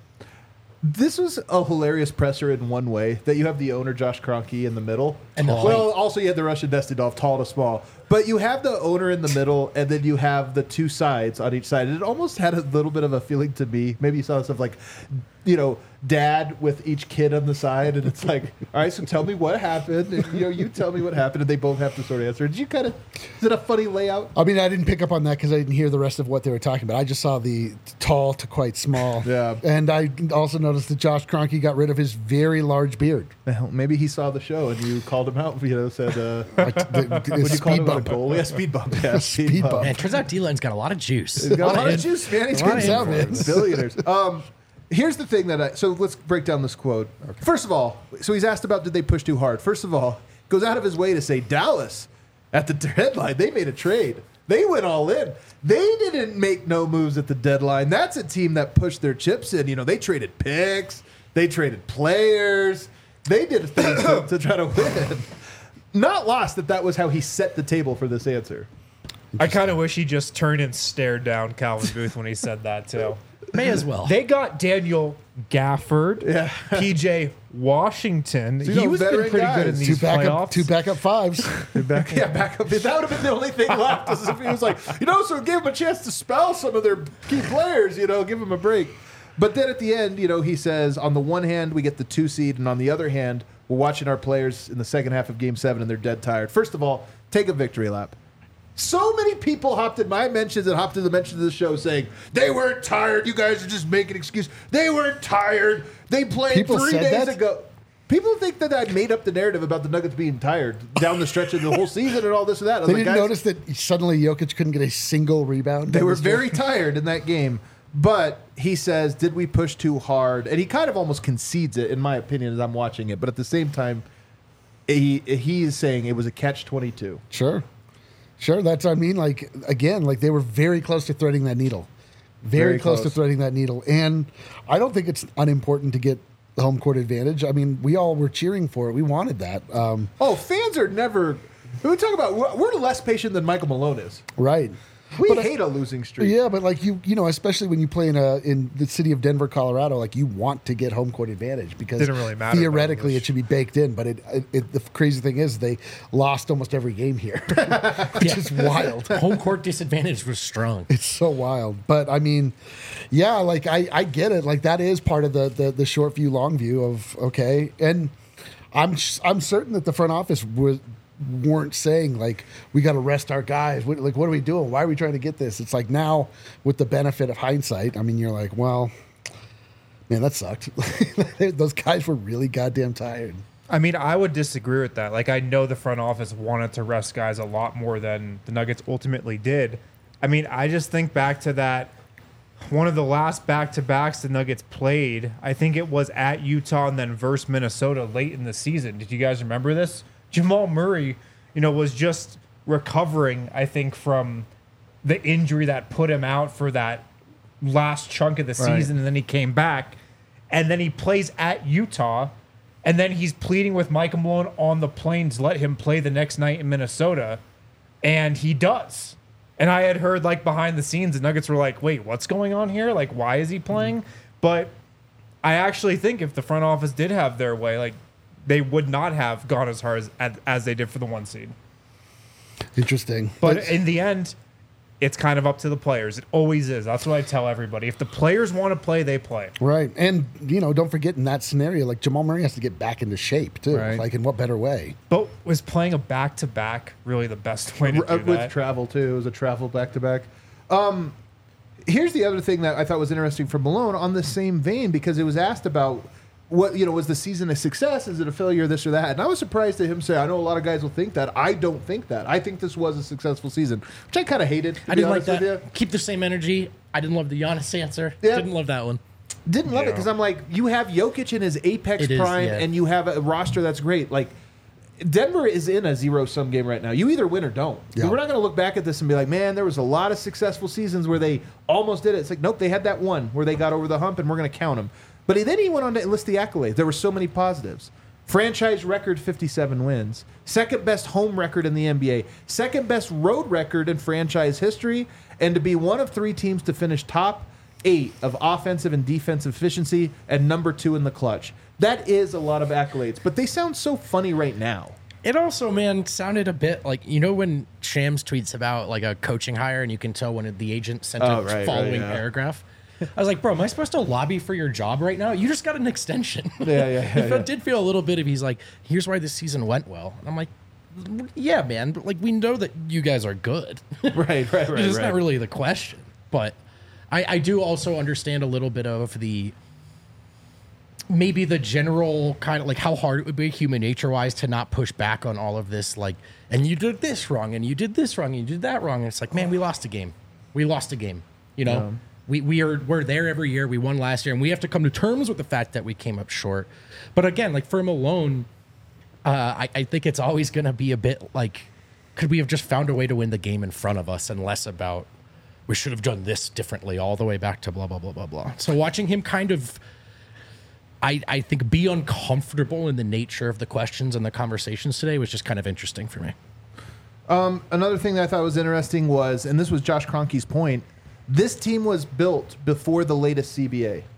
This was a hilarious presser in one way, that you have the owner, Josh Kroenke, in the middle. And the well, height. also you had the Russian Destinov, tall to small. But you have the owner in the middle, and then you have the two sides on each side. And it almost had a little bit of a feeling to me. Maybe you saw stuff like, you know, dad with each kid on the side, and it's like, all right, so tell me what happened. And, you know, you tell me what happened, and they both have to sort of answer. Did you kind of, is it a funny layout? I mean, I didn't pick up on that because I didn't hear the rest of what they were talking about. I just saw the tall to quite small. Yeah. And I also noticed that Josh Kroenke got rid of his very large beard. Well, maybe he saw the show and you called him out. You know, said, uh, Like the, the what do you call speed him? bump. A goal? Yeah, speed bump. Yeah, speed, Speed bump. bump. Man, it turns out D-Line's got a lot of juice. He's got a lot of in- juice, man. He's a lot getting of out, man. influence. Billionaires. Um, here's the thing that I. So let's break down this quote. First of all, so he's asked about did they push too hard. First of all, goes out of his way to say Dallas at the deadline they made a trade. They went all in. They didn't make no moves at the deadline. That's a team that pushed their chips in. You know, they traded picks. They traded players. They did things to, to try to win. Not lost that that was how he set the table for this answer. I kind of wish he just turned and stared down Calvin Booth when he said that too. May as well. They got Daniel Gafford, Yeah. P J Washington. you he know, was been veteran pretty good in guys. these Two backup, playoffs. two backup fives. Back, yeah, back up. That would have been the only thing left. Was if he was like, you know, so give him a chance to spell some of their key players, you know, give him a break. But then at the end, you know, he says, on the one hand, we get the two seed, and on the other hand, we're watching our players in the second half of game seven, and they're dead tired. First of all, take a victory lap. So many people hopped in my mentions and hopped in the mentions of the show saying, they weren't tired. You guys are just making excuses. They weren't tired. They played People three said days that? ago. People think that I made up the narrative about the Nuggets being tired down the stretch of the whole season and all this and that. I was They like, didn't guys, notice that suddenly Jokic couldn't get a single rebound. they down were the stretch? very tired in that game. But he says, did we push too hard? And he kind of almost concedes it, in my opinion, as I'm watching it. But at the same time, he he is saying it was a catch twenty-two. Sure. Sure. That's, I mean, like, again, like they were very close to threading that needle. Very, Very close, to close. threading that needle. And I don't think it's unimportant to get the home court advantage. I mean, we all were cheering for it. We wanted that. Um, Oh, fans are never. We talk about we're we're less patient than Michael Malone is. right. We But I- hate a losing streak. Yeah, but like you, you know, especially when you play in a in the city of Denver, Colorado, like you want to get home court advantage because Didn't really matter theoretically about it should be baked in. But it, it, it the crazy thing is they lost almost every game here, which is wild. Home court disadvantage was strong. It's so wild. But I mean, yeah, like I, I get it. Like that is part of the, the the short view, long view of okay. And I'm I'm certain that the front office was weren't saying like we got to rest our guys. What, like what are we doing? Why are we trying to get this? It's like now with the benefit of hindsight. I mean, you're like, well, man, that sucked. Those guys were really goddamn tired. I mean, I would disagree with that. Like, I know the front office wanted to rest guys a lot more than the Nuggets ultimately did. I mean, I just think back to that one of the last back-to-backs the Nuggets played. I think it was at Utah and then versus Minnesota late in the season. Did you guys remember this? Jamal Murray, you know, was just recovering, I think, from the injury that put him out for that last chunk of the Right. season, and then he came back, and then he plays at Utah, and then he's pleading with Michael Malone on the plane to let him play the next night in Minnesota, and he does. And I had heard, like, behind the scenes, the Nuggets were like, wait, what's going on here? Like, why is he playing? But I actually think if the front office did have their way, like, they would not have gone as hard as, as they did for the one seed. Interesting. But That's- in the end, it's kind of up to the players. It always is. That's what I tell everybody. If the players want to play, they play. right. And, you know, don't forget in that scenario, like Jamal Murray has to get back into shape too. Right. Like in what better way? But was playing a back-to-back really the best way to Uh, do with that? travel too. It was a travel back to back. Um, Here's the other thing that I thought was interesting from Malone on the same vein, because it was asked about what, you know, was the season a success? Is it a failure, this or that? And I was surprised to him say, I know a lot of guys will think that. I don't think that. I think this was a successful season, which I kind of hated. I didn't like that. Keep the same energy. I didn't love the Giannis answer. Yeah. Didn't love that one. Didn't love Yeah. it because I'm like, you have Jokic in his apex It is, prime, yeah. and you have a roster that's great. Like, Denver is in a zero-sum game right now. You either win or don't. Yeah. We're not going to look back at this and be like, man, there was a lot of successful seasons where they almost did it. It's like, nope, they had that one where they got over the hump, and we're going to count them. But he, then he went on to list the accolades. There were so many positives. Franchise record, fifty-seven wins. Second best home record in the N B A. Second best road record in franchise history. And to be one of three teams to finish top eight of offensive and defensive efficiency and number two in the clutch. That is a lot of accolades, but they sound so funny right now. It also, man, sounded a bit like, you know, when Shams tweets about like a coaching hire and you can tell when the agent sent Oh, a right, right, following yeah. paragraph. I was like, bro, am I supposed to lobby for your job right now? You just got an extension. Yeah, yeah, yeah, It yeah. did feel a little bit of, he's like, here's why this season went well. And I'm like, yeah, man, but like we know that you guys are good. Right, right, right. It's right. not really the question. But I, I do also understand a little bit of the maybe the general kind of like how hard it would be human nature wise to not push back on all of this. Like, and you did this wrong, and you did this wrong, and you did that wrong. And it's like, man, we lost a game. We lost a game. You know, Yeah. we we are we're there every year. We won last year, and we have to come to terms with the fact that we came up short. But again, like for Malone, uh, I, I think it's always going to be a bit like, could we have just found a way to win the game in front of us, and less about we should have done this differently all the way back to blah blah blah blah blah. So watching him kind of, I I think be uncomfortable in the nature of the questions and the conversations today was just kind of interesting for me. Another thing that I thought was interesting was, and this was Josh Kroenke's point, this team was built before the latest C B A.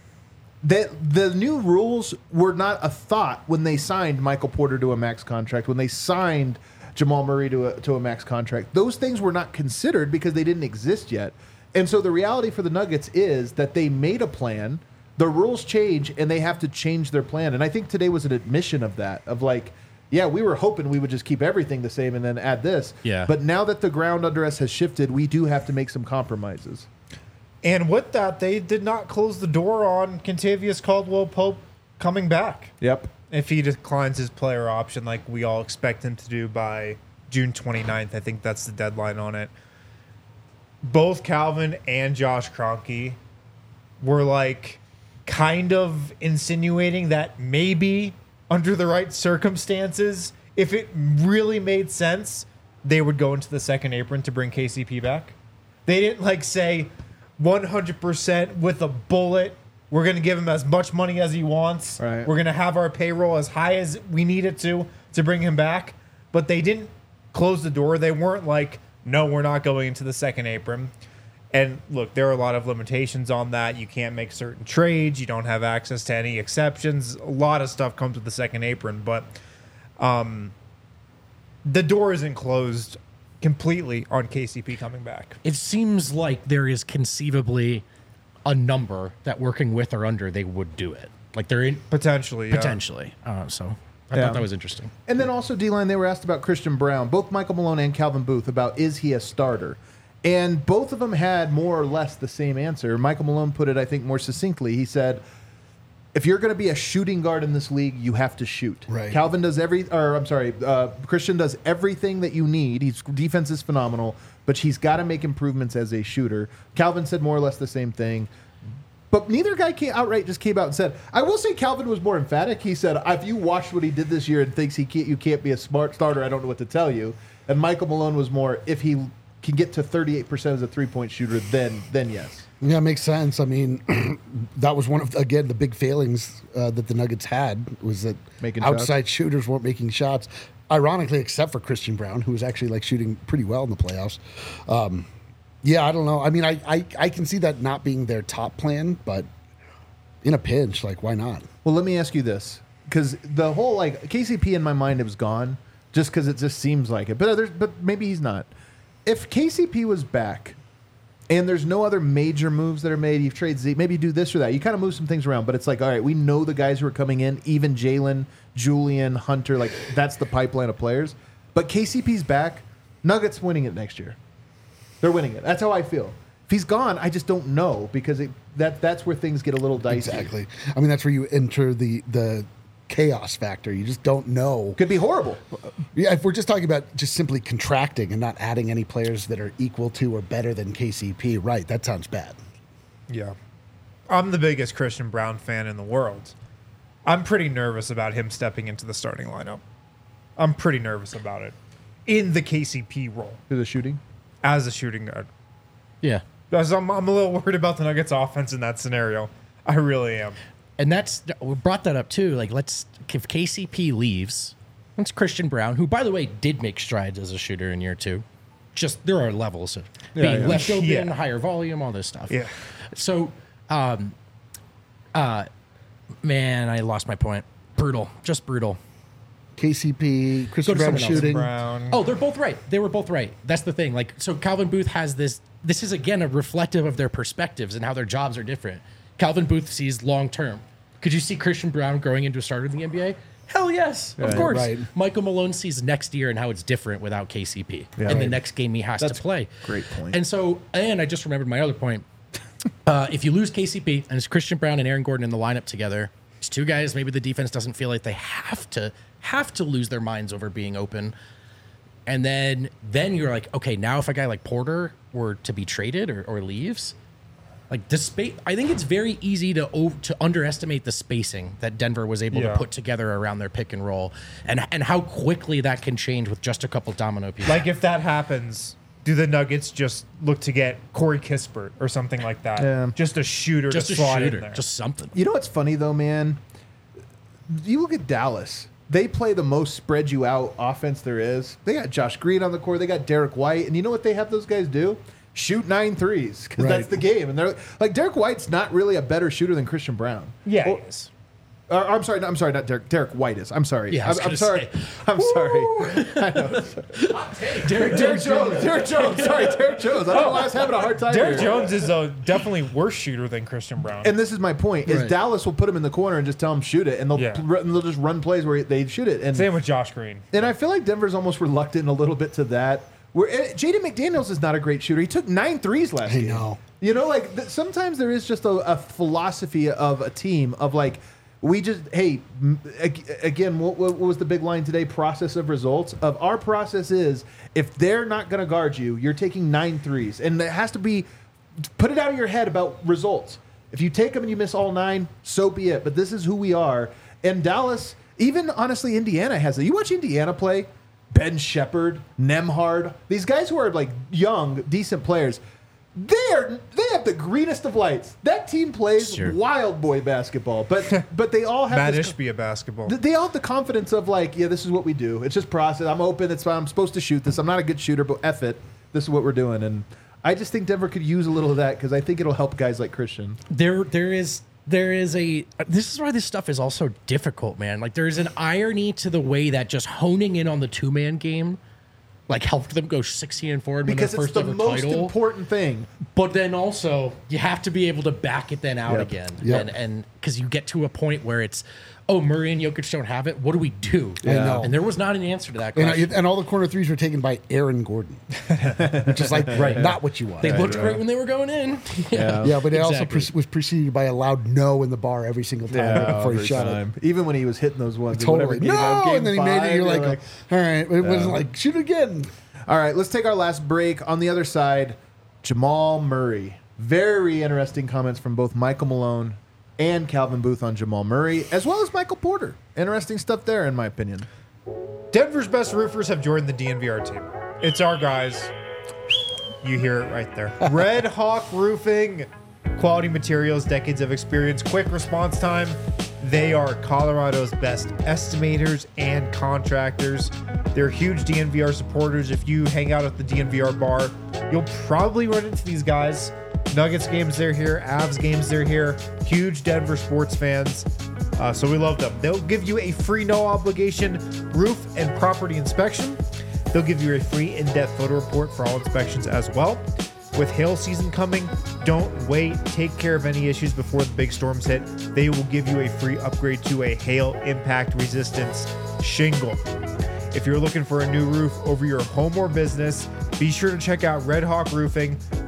The, the new rules were not a thought when they signed Michael Porter to a max contract, when they signed Jamal Murray to a, to a max contract. Those things were not considered because they didn't exist yet. And so the reality for the Nuggets is that they made a plan, the rules change, and they have to change their plan. And I think today was an admission of that, of like, yeah, we were hoping we would just keep everything the same and then add this. Yeah. But now that the ground under us has shifted, we do have to make some compromises. And with that, they did not close the door on Kentavious Caldwell-Pope coming back. Yep. If he declines his player option like we all expect him to do by June twenty-ninth, I think that's the deadline on it. Both Calvin and Josh Kroenke were like kind of insinuating that maybe under the right circumstances, if it really made sense, they would go into the second apron to bring K C P back. They didn't like say one hundred percent with a bullet, we're going to give him as much money as he wants. Right. We're going to have our payroll as high as we need it to to bring him back. But they didn't close the door. They weren't like, no, we're not going into the second apron. And look, there are a lot of limitations on that. You can't make certain trades. You don't have access to any exceptions. A lot of stuff comes with the second apron. But um, the door isn't closed completely on K C P coming back. It seems like there is conceivably a number that working with or under they would do it. Like they're in Potentially, yeah. potentially. Uh, so I Yeah. thought that was interesting. And then also, D-line, they were asked about Christian Brown, both Michael Malone and Calvin Booth, about is he a starter? And both of them had more or less the same answer. Michael Malone put it, I think, more succinctly. He said, if you're going to be a shooting guard in this league, you have to shoot. Right. Calvin does every, or I'm sorry, uh, Christian does everything that you need. His defense is phenomenal, but he's got to make improvements as a shooter. Calvin said more or less the same thing. But neither guy came outright just came out and said. I will say Calvin was more emphatic. He said, "If you watched what he did this year and thinks he can't, you can't be a smart starter, I don't know what to tell you." And Michael Malone was more, if he can get to thirty-eight percent as a three-point shooter, then then yes. Yeah, it makes sense. I mean, that was one of, again, the big failings uh, that the Nuggets had was that Making outside shooters weren't making shots. Ironically, except for Christian Brown, who was actually like shooting pretty well in the playoffs. Um, yeah, I don't know. I mean, I, I, I can see that not being their top plan, but in a pinch, like, why not? Well, let me ask you this, because the whole like K C P in my mind it was gone, just because it just seems like it. But there's, but maybe he's not. If K C P was back, and there's no other major moves that are made, you trade Zeke, maybe you do this or that. You kind of move some things around, but it's like, all right, we know the guys who are coming in, even Jalen, Julian, Hunter, like that's the pipeline of players. But K C P's back, Nuggets winning it next year. They're winning it. That's how I feel. If he's gone, I just don't know because it, that that's where things get a little dicey. Exactly. I mean, that's where you enter the the chaos factor. You just don't know. Could be horrible. Yeah, if we're just talking about just simply contracting and not adding any players that are equal to or better than K C P, right? That sounds bad. Yeah. I'm the biggest Christian Braun fan in the world. I'm pretty nervous about him stepping into the starting lineup. I'm pretty nervous about it. In the K C P role. To the shooting. As a shooting guard. Yeah. Because I'm, I'm a little worried about the Nuggets offense in that scenario. I really am. And that's, we brought that up too. Like, let's, if K C P leaves, it's Christian Braun, who, by the way, did make strides as a shooter in year two. Just, there are levels of being yeah. left open, Yeah. higher volume, all this stuff. Yeah. So, um, uh, man, I lost my point. Brutal. Just brutal. K C P, Christian to Brown someone else. shooting. Brown. Oh, they're both right. They were both right. That's the thing. Like, so Calvin Booth has this. This is again a reflective of their perspectives and how their jobs are different. Calvin Booth sees long term. Could you see Christian Braun growing into a starter in the N B A? Hell yes, of course. right. Michael Malone sees next year and how it's different without K C P Yeah. and the Right. next game he has That's to play. great point. And so, and I just remembered my other point. Uh, if you lose K C P and it's Christian Braun and Aaron Gordon in the lineup together, it's two guys. Maybe the defense doesn't feel like they have to have to lose their minds over being open. And then then you're like, okay, now if a guy like Porter were to be traded or, or leaves, like the space, I think it's very easy to o- to underestimate the spacing that Denver was able Yeah. to put together around their pick and roll, and and how quickly that can change with just a couple domino pieces. Like, if that happens, do the Nuggets just look to get Corey Kispert or something like that? Yeah. Just a shooter just to a slot shooter, in there. just something. You know what's funny though, man? You look at Dallas. They play the most spread you out offense there is. They got Josh Green on the court. They got Derek White, and you know what they have those guys do? Shoot nine threes because Right. that's the game. And they're like Derek White's not really a better shooter than Christian Brown. yeah, Well, it is. Uh, I'm sorry. No, I'm sorry. Not Derek. Derek White is. I'm sorry. Yeah, I I'm, was I'm gonna sorry. say. I'm sorry. I know. Derek, Derek Jones. Derek Jones. Sorry, Derek Jones. I don't know why I was having a hard time. Derek here. Jones is a definitely worse shooter than Christian Brown. And this is my point: is Right. Dallas will put him in the corner and just tell him shoot it, and they'll Yeah. and they'll just run plays where they shoot it. And Same with Josh Green. and I feel like Denver's almost reluctant a little bit to that. Where eh, Jaden McDaniels is not a great shooter. He took nine threes last I game. know. You know, like th- sometimes there is just a, a philosophy of a team of like, we just, hey, m- ag- again, what, what was the big line today? Process of results. Of our process is if they're not going to guard you, you're taking nine threes. And it has to be, put it out of your head about results. If you take them and you miss all nine, so be it. But this is who we are. And Dallas, even honestly, Indiana has it. You watch Indiana play, Ben Shepherd, Nemhard, these guys who are like young, decent players. They're they have the greenest of lights. That team plays Sure. wild boy basketball, but but they all have Matt this, Ishbia basketball. they all have the confidence of like, yeah, this is what we do. It's just process. I'm open. It's fine. I'm supposed to shoot this. I'm not a good shooter, but F it. This is what we're doing. And I just think Denver could use a little of that because I think it'll help guys like Christian. there there is there is a this is why this stuff is also difficult, man. Like there's an irony to the way that just honing in on the two man game like helped them go sixteen and four and win their Because it's first the ever most title. important thing. But then also you have to be able to back it then out Yep. again. Yep. And and because you get to a point where it's, oh, Murray and Jokic don't have it. What do we do? I know. And there was not an answer to that And, question. I, and all the corner threes were taken by Aaron Gordon, which is like not what you want. they looked great when they were going in. Yeah. Yeah, but it also Exactly. pre- was preceded by a loud no in the bar every single time right before he every shot time. Even when he was hitting those ones. it. in whatever Totally. game, No, game and then he made five, it. You're like, like, all right. It wasn't like, shoot again. all right, let's take our last break. On the other side, Jamal Murray. Very interesting comments from both Michael Malone and Calvin Booth on Jamal Murray, as well as Michael Porter. Interesting stuff there, in my opinion. Denver's best roofers have joined the D N V R team. It's our guys. You hear it right there. Red Hawk Roofing. Quality materials, decades of experience, quick response time. They are Colorado's best estimators and contractors. They're huge D N V R supporters. If you hang out at the D N V R bar, you'll probably run into these guys. Nuggets games, they're here. Avs games, they're here. Huge Denver sports fans. Uh, so we love them. They'll give you a free, no obligation roof and property inspection. They'll give you a free in-depth photo report for all inspections as well. With hail season coming, don't wait. Take care of any issues before the big storms hit. They will give you a free upgrade to a hail impact resistance shingle. If you're looking for a new roof over your home or business, be sure to check out Red Hawk Roofing.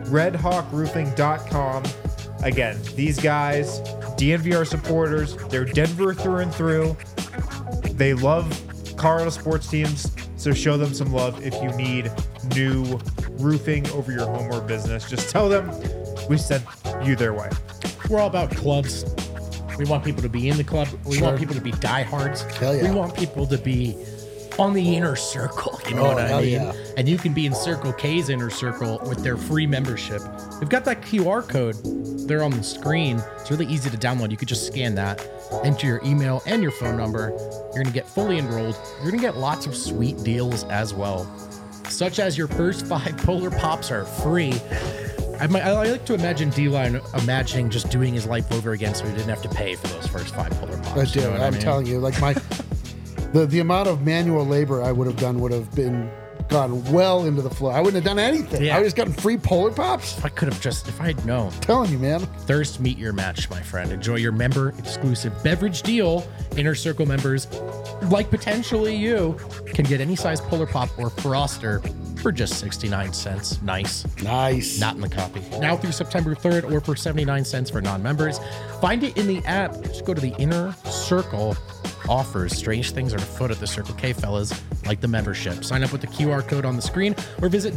red hawk roofing dot com. Again, these guys, D N V R supporters, they're Denver through and through. They love Colorado sports teams, so show them some love if you need new roofing over your home or business. Just tell them we sent you their way. We're all about clubs. We want people to be in the club. We Sure. want people to be diehards. Hell yeah. We want people to be on the inner circle. You know Oh, what I hell mean? yeah. And you can be in Circle K's inner circle with their free membership. We've got that Q R code there on the screen. It's really easy to download. You could just scan that, enter your email and your phone number. You're going to get fully enrolled. You're going to get lots of sweet deals as well, such as your first five Polar Pops are free. I, might, I like to imagine D-Line imagining just doing his life over again so he didn't have to pay for those first five Polar Pops. I You do. know what I I'm mean? telling you, like my the the amount of manual labor I would have done would have been gone well into the floor. I wouldn't have done anything. Yeah. I would have gotten free Polar Pops. If I could have just, if I had known. telling you, man. Thirst meet your match, my friend. Enjoy your member exclusive beverage deal. Inner Circle members, like potentially you, can get any size Polar Pop or Froster for just sixty-nine cents. Nice. Nice. Not in the copy. Now through September third or for seventy-nine cents for non-members. Find it in the app. Just go to the Inner Circle offers. Strange things are afoot at the Circle K, fellas, like the membership. Sign up with the Q R code on the screen or visit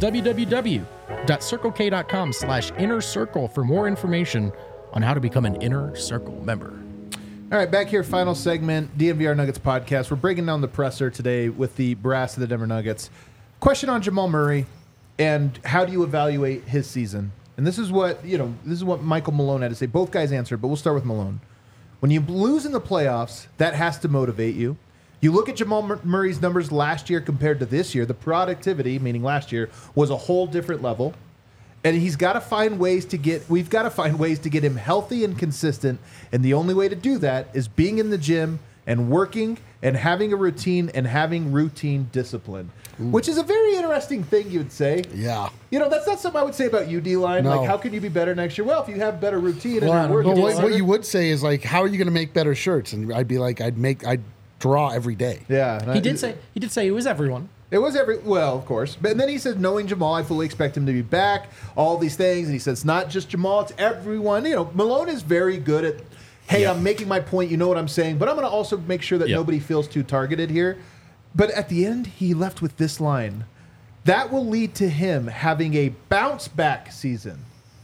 www.circlek.com slash inner circle for more information on how to become an Inner Circle member. All right, back here, final segment, D N V R Nuggets podcast. We're breaking down the presser today with the brass of the Denver Nuggets. Question on Jamal Murray and how do you evaluate his season? And this is what, you know, this is what Michael Malone had to say. Both guys answered, but we'll start with Malone. When you lose in the playoffs, that has to motivate you. You look at Jamal Mur- Murray's numbers last year compared to this year, the productivity, meaning last year, was a whole different level. And he's got to find ways to get, we've got to find ways to get him healthy and consistent. And the only way to do that is being in the gym and working and having a routine and having routine discipline, Ooh. which is a very interesting thing you would say. Yeah. You know, that's not something I would say about you, D-Line. No. Like, how can you be better next year? Well, if you have better routine and Well, you're working. But what, harder- what you would say is like, how are you going to make better shirts? And I'd be like, I'd make, I'd draw every day. Yeah. and He I- did say he did say it was everyone. It was every, well, of course. But and then he says, knowing Jamal, I fully expect him to be back, all these things. And he says, it's not just Jamal, it's everyone. You know, Malone is very good at, hey, Yeah. I'm making my point, you know what I'm saying, but I'm going to also make sure that Yeah. nobody feels too targeted here. But at the end, he left with this line. That will lead to him having a bounce back season.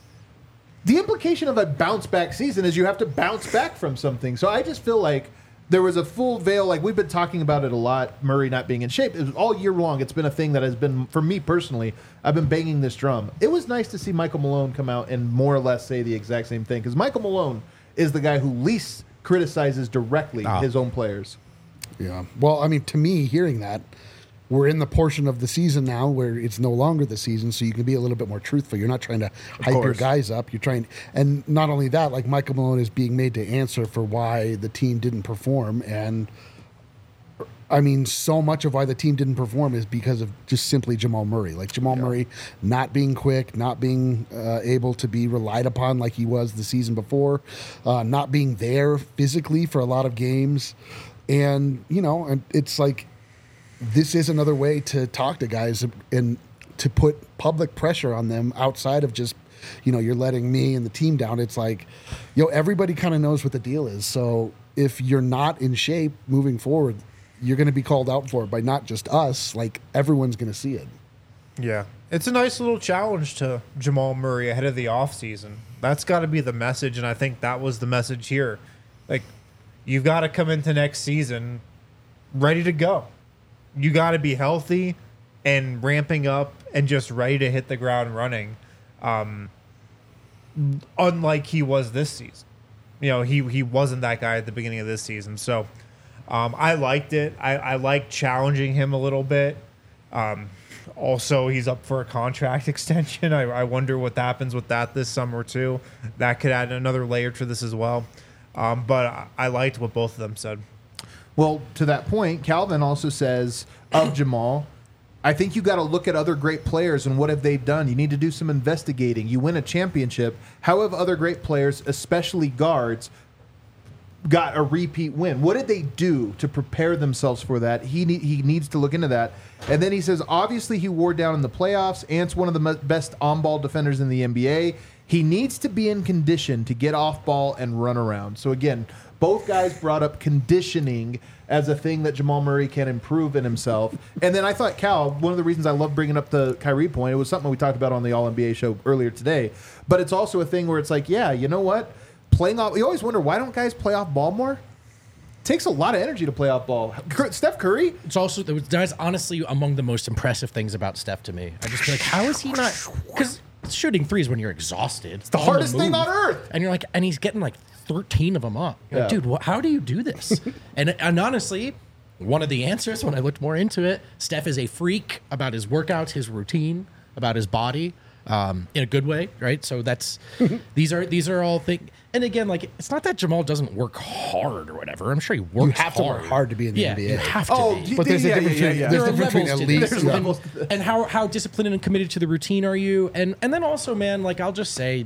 The implication of a bounce back season is you have to bounce back from something. So I just feel like there was a full veil. Like we've been talking about it a lot, Murray not being in shape. It was all year long. It's been a thing that has been, for me personally, I've been banging this drum. It was nice to see Michael Malone come out and more or less say the exact same thing. Because Michael Malone is the guy who least criticizes directly Ah. his own players. Yeah. Well, I mean, to me, hearing that, we're in the portion of the season now where it's no longer the season, so you can be a little bit more truthful. You're not trying to hype your course. guys up. You're trying, and not only that, like Michael Malone is being made to answer for why the team didn't perform, and I mean, so much of why the team didn't perform is because of just simply Jamal Murray. Like Jamal Murray not being quick, not being uh, able to be relied upon like he was the season before, uh, not being there physically for a lot of games, and you know, and it's like. This is another way to talk to guys and to put public pressure on them outside of just, you know, you're letting me and the team down. It's like, yo, everybody kind of knows what the deal is. So if you're not in shape moving forward, you're going to be called out for it by not just us. Like everyone's going to see it. Yeah. It's a nice little challenge to Jamal Murray ahead of the offseason. That's got to be the message, and I think that was the message here. Like, you've got to come into next season ready to go. You got to be healthy and ramping up and just ready to hit the ground running. Um, unlike he was this season. You know, he he wasn't that guy at the beginning of this season. So um, I liked it. I, I liked challenging him a little bit. Um, also, he's up for a contract extension. I, I wonder what happens with that this summer, too. That could add another layer to this as well. Um, but I, I liked what both of them said. Well, to that point, Calvin also says of Jamal, I think you got to look at other great players and what have they done. You need to do some investigating. You win a championship. How have other great players, especially guards, got a repeat win. What did they do to prepare themselves for that? He ne- he needs to look into that. And then he says, obviously he wore down in the playoffs. Ant's one of the me- best on-ball defenders in the N B A. He needs to be in condition to get off ball and run around. So again, both guys brought up conditioning as a thing that Jamal Murray can improve in himself. And then I thought, Cal, one of the reasons I love bringing up the Kyrie point, it was something we talked about on the All N B A show earlier today. But it's also a thing where it's like, yeah, you know what? Playing off, you always wonder, why don't guys play off ball more? It takes a lot of energy to play off ball. Steph Curry? It's also, that's honestly among the most impressive things about Steph to me. I just feel like, how is he not? Because shooting threes when you're exhausted. It's the hardest thing on earth. And you're like, and he's getting like thirteen of them up. You're like, Yeah. dude, wh- how do you do this? and and honestly, one of the answers when I looked more into it, Steph is a freak about his workouts, his routine, about his body, um, in a good way, right? So that's these are these are all things. And again, like it's not that Jamal doesn't work hard or whatever. I'm sure he works. You have to work hard to be in the yeah, N B A. You have to. Oh, be. But there's yeah, a difference yeah, yeah, between, yeah. there's There a are difference between levels to elite. this. There's yeah. levels. and, and how how disciplined and committed to the routine are you? And and then also, man, like I'll just say,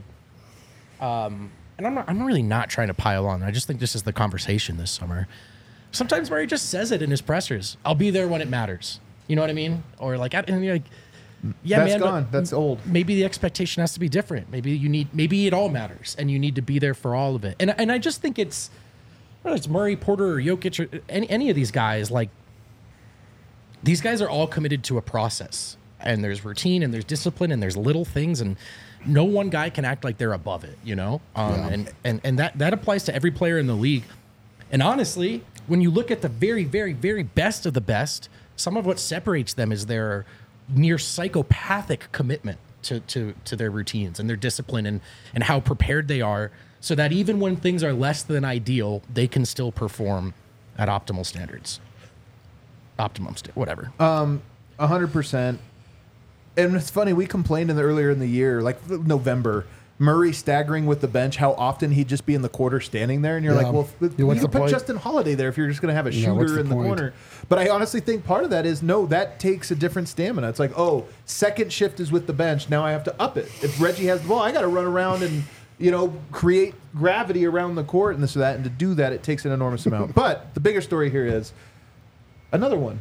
um, and I'm not, I'm really not trying to pile on. I just think this is the conversation this summer. Sometimes Murray just says it in his pressers. I'll be there when it matters. You know what I mean? Or like, I, and you're like, yeah, That's man, but gone. That's old. Maybe the expectation has to be different. Maybe you need, maybe it all matters, and you need to be there for all of it. And and I just think it's, whether it's Murray, Porter, or Jokic, or any any of these guys, like these guys are all committed to a process, and there's routine, and there's discipline, and there's little things, and no one guy can act like they're above it, you know. Um, Yeah. And and and that that applies to every player in the league. And honestly, when you look at the very, very, very best of the best, some of what separates them is their near psychopathic commitment to, to, to their routines and their discipline and, and how prepared they are so that even when things are less than ideal, they can still perform at optimal standards. Optimum, st- whatever. A hundred percent. And it's funny, we complained in the earlier in the year, like November, Murray staggering with the bench, how often he'd just be in the quarter standing there, and you're Yeah. like, well, Yeah, you what's can the put point? Justin Holiday there if you're just going to have a Yeah, what's shooter the in the point? corner. But I honestly think part of that is no, that takes a different stamina. It's like, oh, second shift is with the bench. Now I have to up it. If Reggie has the ball, I got to run around and you know create gravity around the court and this or that. And to do that, it takes an enormous amount. But the bigger story here is another one.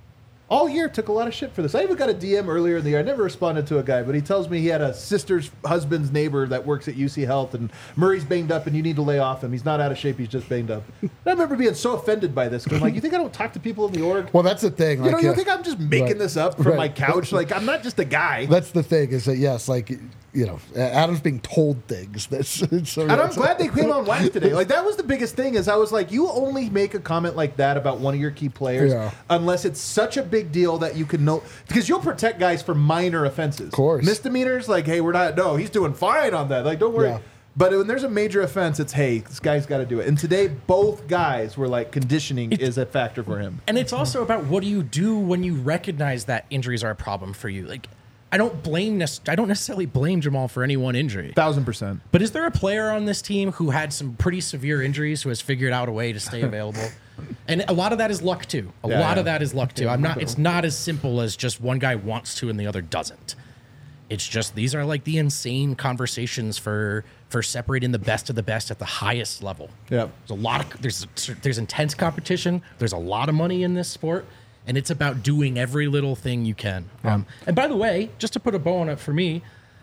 All year took a lot of shit for this. I even got a D M earlier in the year. I never responded to a guy, but he tells me he had a sister's husband's neighbor that works at U C Health, and Murray's banged up, and you need to lay off him. He's not out of shape. He's just banged up. And I remember being so offended by this. 'Cause I'm like, you think I don't talk to people in the org? Well, that's the thing. you Like, know, you yeah. think I'm just making Right. this up from Right. my couch? Like, I'm not just a guy. That's the thing is that yes, like you know, Adam's being told things. That's so And I'm glad they came on wax today. Like that was the biggest thing. Is I was like, you only make a comment like that about one of your key players Yeah. unless it's such a big deal that you can know because you'll protect guys for minor offenses. Of course. misdemeanors, like, hey, we're not. No, he's doing fine on that. Like, don't worry. Yeah. But when there's a major offense, it's hey, this guy's got to do it. And today, both guys were like, conditioning is a factor for him. And it's also about what do you do when you recognize that injuries are a problem for you. Like, I don't blame nec- I don't necessarily blame Jamal for any one injury. Thousand percent. But is there a player on this team who had some pretty severe injuries who has figured out a way to stay available? And a lot of that is luck too. A Yeah, lot yeah. of that is luck too. I'm not. It's not as simple as just one guy wants to and the other doesn't. It's just these are like the insane conversations for for separating the best of the best at the highest level. Yeah. There's a lot of there's there's intense competition. There's a lot of money in this sport, and it's about doing every little thing you can. Um, and by the way, just to put a bow on it for me,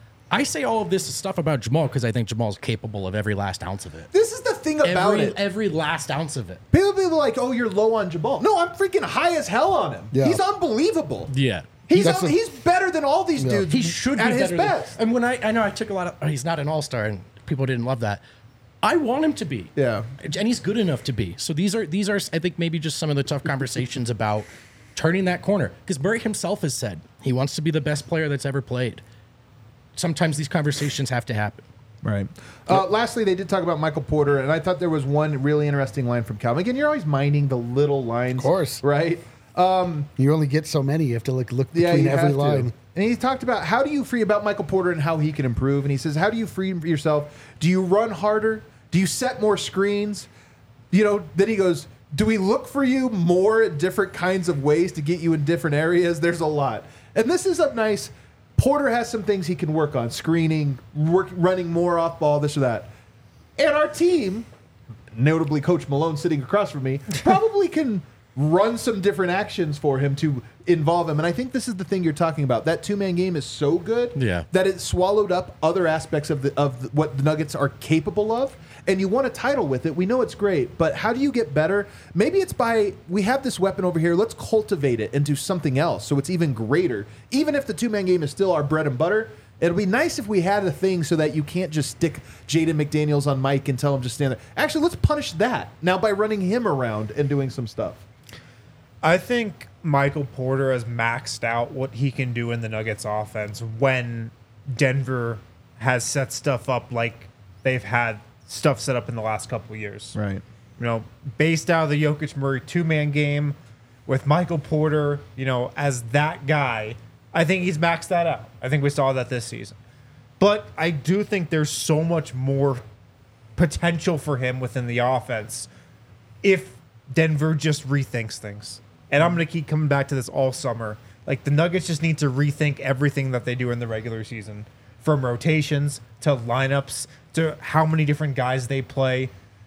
I say all of this stuff about Jamal because I think Jamal's capable of every last ounce of it. This is the thing about Every, it. every last ounce of it. People be like, oh, you're low on Jamal. No, I'm freaking high as hell on him. Yeah. He's unbelievable. Yeah. He's That's un- a- he's better than all these dudes. He should at be his better best. Than, and when I, I know I took a lot of, oh, he's not an all-star and people didn't love that. I want him to be. Yeah. And he's good enough to be. So these are, these are, I think maybe just some of the tough conversations about turning that corner. Because Murray himself has said he wants to be the best player that's ever played. Sometimes these conversations have to happen. Right. Uh, lastly, they did talk about Michael Porter, and I thought there was one really interesting line from Calvin. Again, you're always minding the little lines. Of course. Right? You only get so many. You have to like look Yeah, between you every have line. to. And he talked about how do you free about Michael Porter and how he can improve. And he says, how do you free yourself? Do you run harder? Do you set more screens? You know, then he goes, do we look for you more at different kinds of ways to get you in different areas? There's a lot. And this is a nice, Porter has some things he can work on, screening, work, running more off ball, this or that. And our team notably Coach Malone sitting across from me, probably can run some different actions for him to involve him. And I think this is the thing you're talking about. That two-man game is so good Yeah. that it swallowed up other aspects of the of the, what the Nuggets are capable of. And you won a title with it. We know it's great, but how do you get better? Maybe it's by, we have this weapon over here, let's cultivate it into something else so it's even greater. Even if the two-man game is still our bread and butter, it'll be nice if we had a thing so that you can't just stick Jaden McDaniels on Mike and tell him just stand there. Actually, let's punish that now by running him around and doing some stuff. I think Michael Porter has maxed out what he can do in the Nuggets offense when Denver has set stuff up like they've had stuff set up in the last couple of years. Right. You know, based out of the Jokic Murray two-man game with Michael Porter, you know, as that guy, I think he's maxed that out. I think we saw that this season. But I do think there's so much more potential for him within the offense if Denver just rethinks things. And I'm going to keep coming back to this all summer. Like, the Nuggets just need to rethink everything that they do in the regular season, from rotations to lineups to how many different guys they play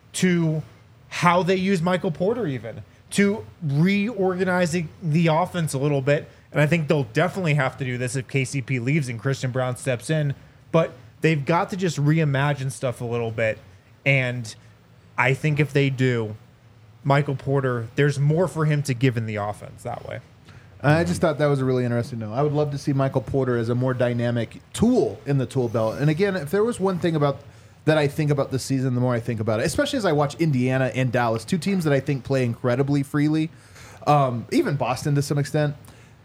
to how they use Michael Porter, even to reorganizing the offense a little bit. And I think they'll definitely have to do this if K C P leaves and Christian Brown steps in. But they've got to just reimagine stuff a little bit. And I think if they do, Michael Porter, there's more for him to give in the offense that way. I just thought that was a really interesting note. I would love to see Michael Porter as a more dynamic tool in the tool belt. And again, if there was one thing about that I think about this season, the more I think about it, especially as I watch Indiana and Dallas, two teams that I think play incredibly freely, um, even Boston to some extent.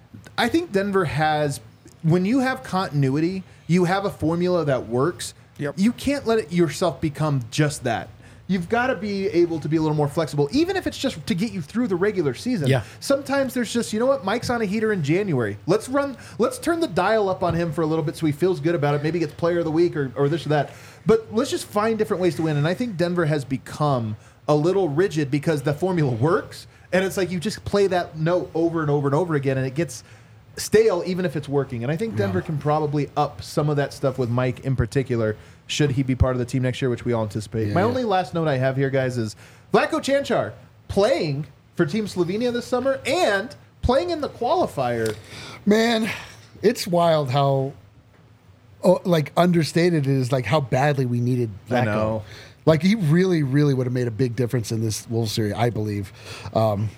I think Denver has, when you have continuity, you have a formula that works. Yep. You can't let it yourself become just that. You've got to be able to be a little more flexible, even if it's just to get you through the regular season. Yeah. Sometimes there's just, you know what, Mike's on a heater in January. Let's run, let's turn the dial up on him for a little bit so he feels good about it. Maybe gets player of the week or, or this or that. But let's just find different ways to win. And I think Denver has become a little rigid because the formula works. And it's like you just play that note over and over and over again, and it gets stale even if it's working. And I think Denver yeah. can probably up some of that stuff with Mike in particular, should he be part of the team next year, which we all anticipate. Yeah, My yeah. only last note I have here, guys, is Vlatko Cancar playing for Team Slovenia this summer and playing in the qualifier. Man, it's wild how oh, like understated it is, like how badly we needed Vlatko. I know. Like he really, really would have made a big difference in this Wolves series, I believe. Um,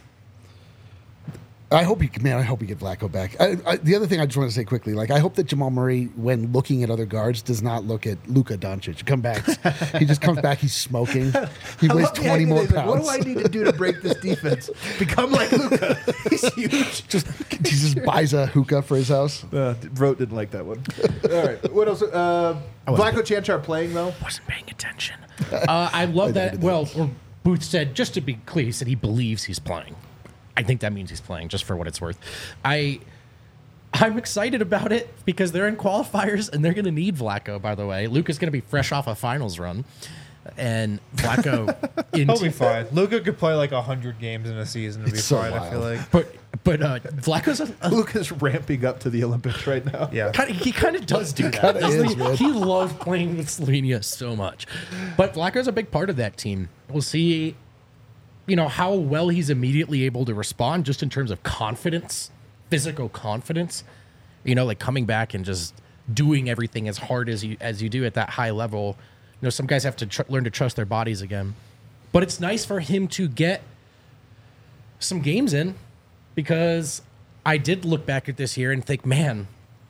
I hope he, man, I hope we get Vlatko back. I, I, the other thing I just want to say quickly, like I hope that Jamal Murray, when looking at other guards, does not look at Luka Doncic. Come back, he just comes back. He's smoking. He I weighs twenty more like, pounds. what do I need to do to break this defense? Become like Luka. He's huge. Just he just buys a hookah for his house. Uh, Vrote didn't like that one. All right, what else? Uh, Vlatko Cancar playing though. Wasn't paying attention. Uh, I love that. Well, or Booth said, just to be clear, he said he believes he's playing. I think that means he's playing, just for what it's worth. I, I'm excited about it because they're in qualifiers and they're going to need Vlatko, by the way. Luka's going to be fresh off a finals run. And Vlatko... He'll be fine. Luka could play like one hundred games in a season and be so fine, wild. I feel like. But but uh, Vlatko's... A, a, Luka's ramping up to the Olympics right now. Yeah. Kinda, he kind of does do that. Kinda doesn't is, he? man. He loves playing with Slovenia so much. But Vlatko's a big part of that team. We'll see... you know, how well he's immediately able to respond just in terms of confidence, physical confidence, you know, like coming back and just doing everything as hard as you as you do at that high level. You know, some guys have to tr- learn to trust their bodies again. But it's nice for him to get some games in because I did look back at this year and think, man,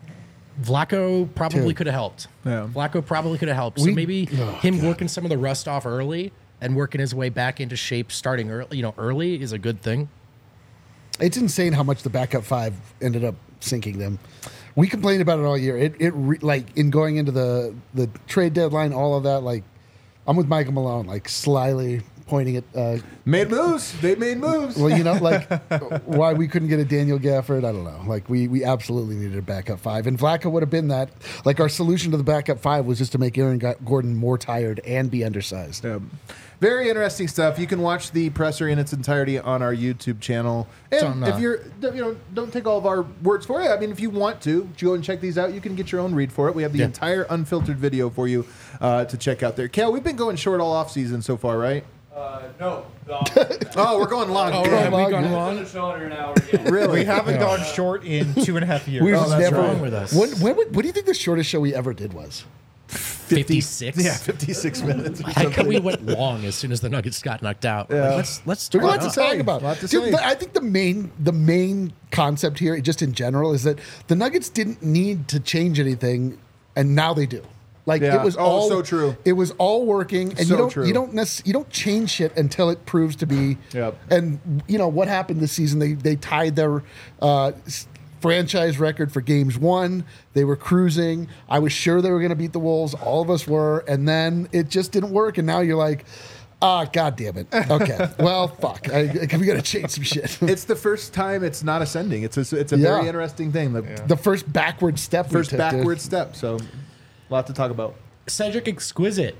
Vlatko probably Dude. could have helped. Yeah. Vlatko probably could have helped. So We- maybe oh, him God. working some of the rust off early and working his way back into shape starting early, you know, early is a good thing. It's insane how much the backup five ended up sinking them. We complained about it all year. It it re, like in going into the the trade deadline, all of that. Like I'm with Michael Malone, like slyly pointing at. Uh, Made moves. They made moves. well, you know, like why we couldn't get a Daniel Gafford, I don't know. Like we we absolutely needed a backup five, and Vlatko would have been that. Like our solution to the backup five was just to make Aaron Gordon more tired and be undersized. Um, very interesting stuff. You can watch the presser in its entirety on our YouTube channel. And on, uh, if you're, you know, don't take all of our words for it. I mean, if you want to, go and check these out. You can get your own read for it. We have the Yeah. entire unfiltered video for you uh, to check out there. Cal, we've been going short all off season so far, right? Uh, no. Oh, we're going long. Oh, Good. have we long, gone yeah. long? Shorter an hour again. Really? We haven't gone short in two and a half years. We've Oh, that's never. wrong with us. When, when, would- what do you think the shortest show we ever did was? fifty-six. Yeah, fifty-six minutes. or I like how something. we went long as soon as the Nuggets got knocked out. Yeah. Like, let's let's There's turn lots it to up. talk about. Lot to Dude, say. the- I think the main the main concept here, just in general, is that the Nuggets didn't need to change anything, and now they do. Like Yeah. it was Oh, all so true. It was all working, and So you don't true. you don't necess- you don't change shit until it proves to be. Yep. And you know what happened this season? They they tied their. Uh, s- franchise record for games won. They were cruising. I was sure they were going to beat the Wolves. All of us were. And then it just didn't work. And now you're like, ah, God damn it. Okay. Well, fuck. I, I, we got to change some shit. It's the first time it's not ascending. It's a, it's a Yeah. very interesting thing. The The first backward step. we first took, dude. backward step. So, a lot to talk about. Cedric Exquisite.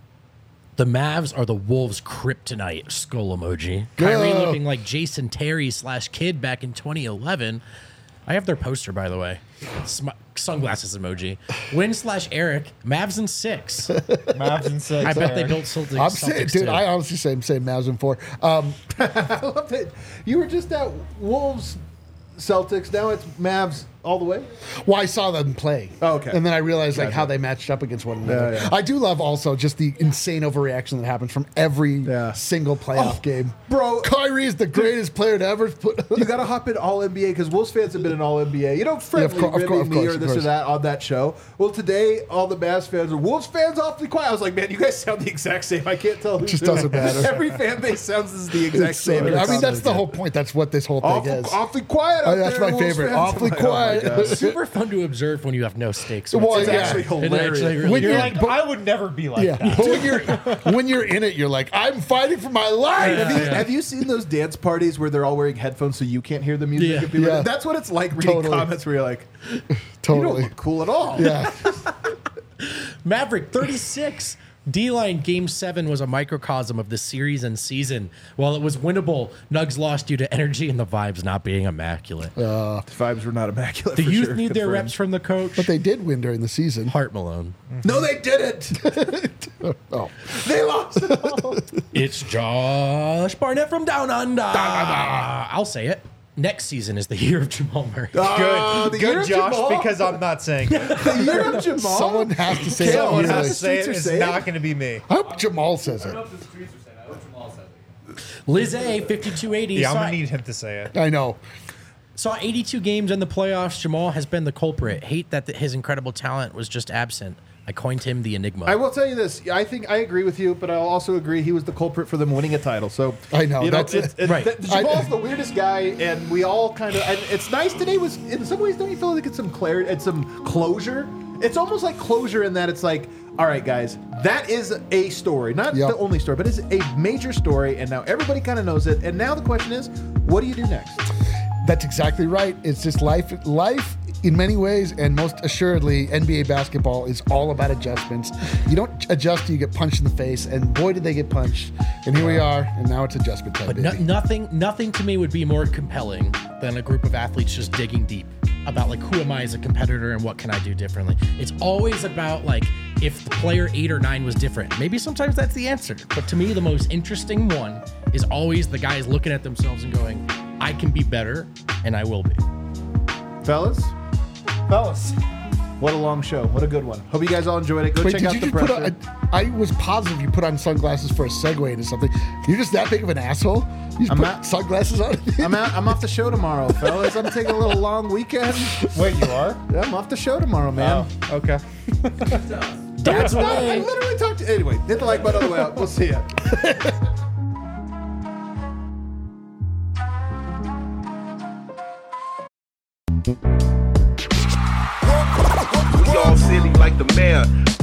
The Mavs are the Wolves' kryptonite. Skull emoji. Kyrie Yeah. looking like Jason Terry slash Kid back in twenty eleven. I have their poster, by the way. Sm- sunglasses emoji. Win slash Eric. Mavs in six. Mavs and six. I bet they Aaron. built Celtics. I'm saying, Celtics dude, too. I honestly say I'm saying Mavs in four. Um, I love it. You were just at Wolves, Celtics. Now it's Mavs all the way. well, I saw them play. Oh, okay. And then I realized like Gotcha. how they matched up against one another. Yeah, yeah. I do love also just the insane overreaction that happens from every Yeah. single playoff Oh, game. bro. Kyrie is the greatest player to ever put. You got to hop in All N B A because Wolves fans have been in All N B A. You know, friendly cour- of ribbing course, of me course, or of this or course. that on that show. Well, today all the Mavs fans are Wolves fans awfully quiet. I was like, man, you guys sound the exact same. I can't tell. Who's Just who. doesn't matter. Every fan base sounds the exact It's so- same. I mean, that's the whole point. That's what this whole thing awful, is. awfully quiet. Oh, Out that's there, my Wolves favorite. fans. Awfully I'm like, oh my quiet. God. Super fun to observe when you have no stakes. Well, It's yeah. actually It hilarious. actually really When You're you're- like, but- I would never be like Yeah, that. but when you're when you're in it, you're like, I'm fighting for my life. Have you, have you seen those dance parties where they're all wearing headphones so you can't hear the music? Yeah. and people- Yeah. That's what it's like reading Totally. comments where you're like, you don't Totally. look cool at all. Yeah. Maverick thirty-six. D-Line Game seven was a microcosm of the series and season. While it was winnable, Nugs lost due to energy and the vibes not being immaculate. The vibes were not immaculate. the for youth sure. need their Confirmed. reps from the coach. But they did win during the season. Hart Malone. No, they didn't. Oh, They lost it all. It's Josh Barnett from Down Under. I'll say it. Next season is the year of Jamal Murray. Uh, the Good, year good of Josh, Jamal? because I'm not saying it. the year of Jamal. someone has to say Someone it. has Easily. to Say it, streets are it's saying. not going to be me. I hope Jamal says I it. don't know if the streets are saying that. I hope Jamal says it. Liz A, fifty-two eighty. Yeah, I'm saw, going to need him to say it. I know. saw eighty-two games in the playoffs. Jamal has been the culprit. Hate that th- his incredible talent was just absent. I coined him the Enigma. I will tell you this. I think I agree with you, but I'll also agree he was the culprit for them winning a title. So I know, you that's it's, it. it's, Right. that- Jamal's the weirdest guy, and we all kind of. And it's nice today. Was in some ways, don't you feel like it's some clarity and some closure? It's almost like closure in that it's like, all right, guys, that is a story, not Yep. the only story, but it's a major story, and now everybody kind of knows it. And now the question is, what do you do next? That's exactly right. It's just life. Life, in many ways, and most assuredly, N B A basketball is all about adjustments. You don't adjust, you get punched in the face, and boy, did they get punched. And here we are, and now it's adjustment time. But baby. no, nothing, nothing to me would be more compelling than a group of athletes just digging deep about like who am I as a competitor and what can I do differently. It's always about like if the player eight or nine was different. Maybe sometimes that's the answer. But to me, the most interesting one is always the guys looking at themselves and going, "I can be better, and I will be." Fellas, Fellas. what a long show. What a good one. Hope you guys all enjoyed it. Go Wait, check did out you the just put pressure. on, I was positive you put on sunglasses for a segue into something. You're just that big of an asshole? You just I'm put not- sunglasses on? I'm out. I'm off the show tomorrow, fellas. I'm taking a little long weekend. Wait, you are? Yeah, I'm off the show tomorrow, man. Oh, okay. Dad's No, I away. literally talked to. Anyway, hit the like button on the way out. We'll see ya. We all silly like the mayor.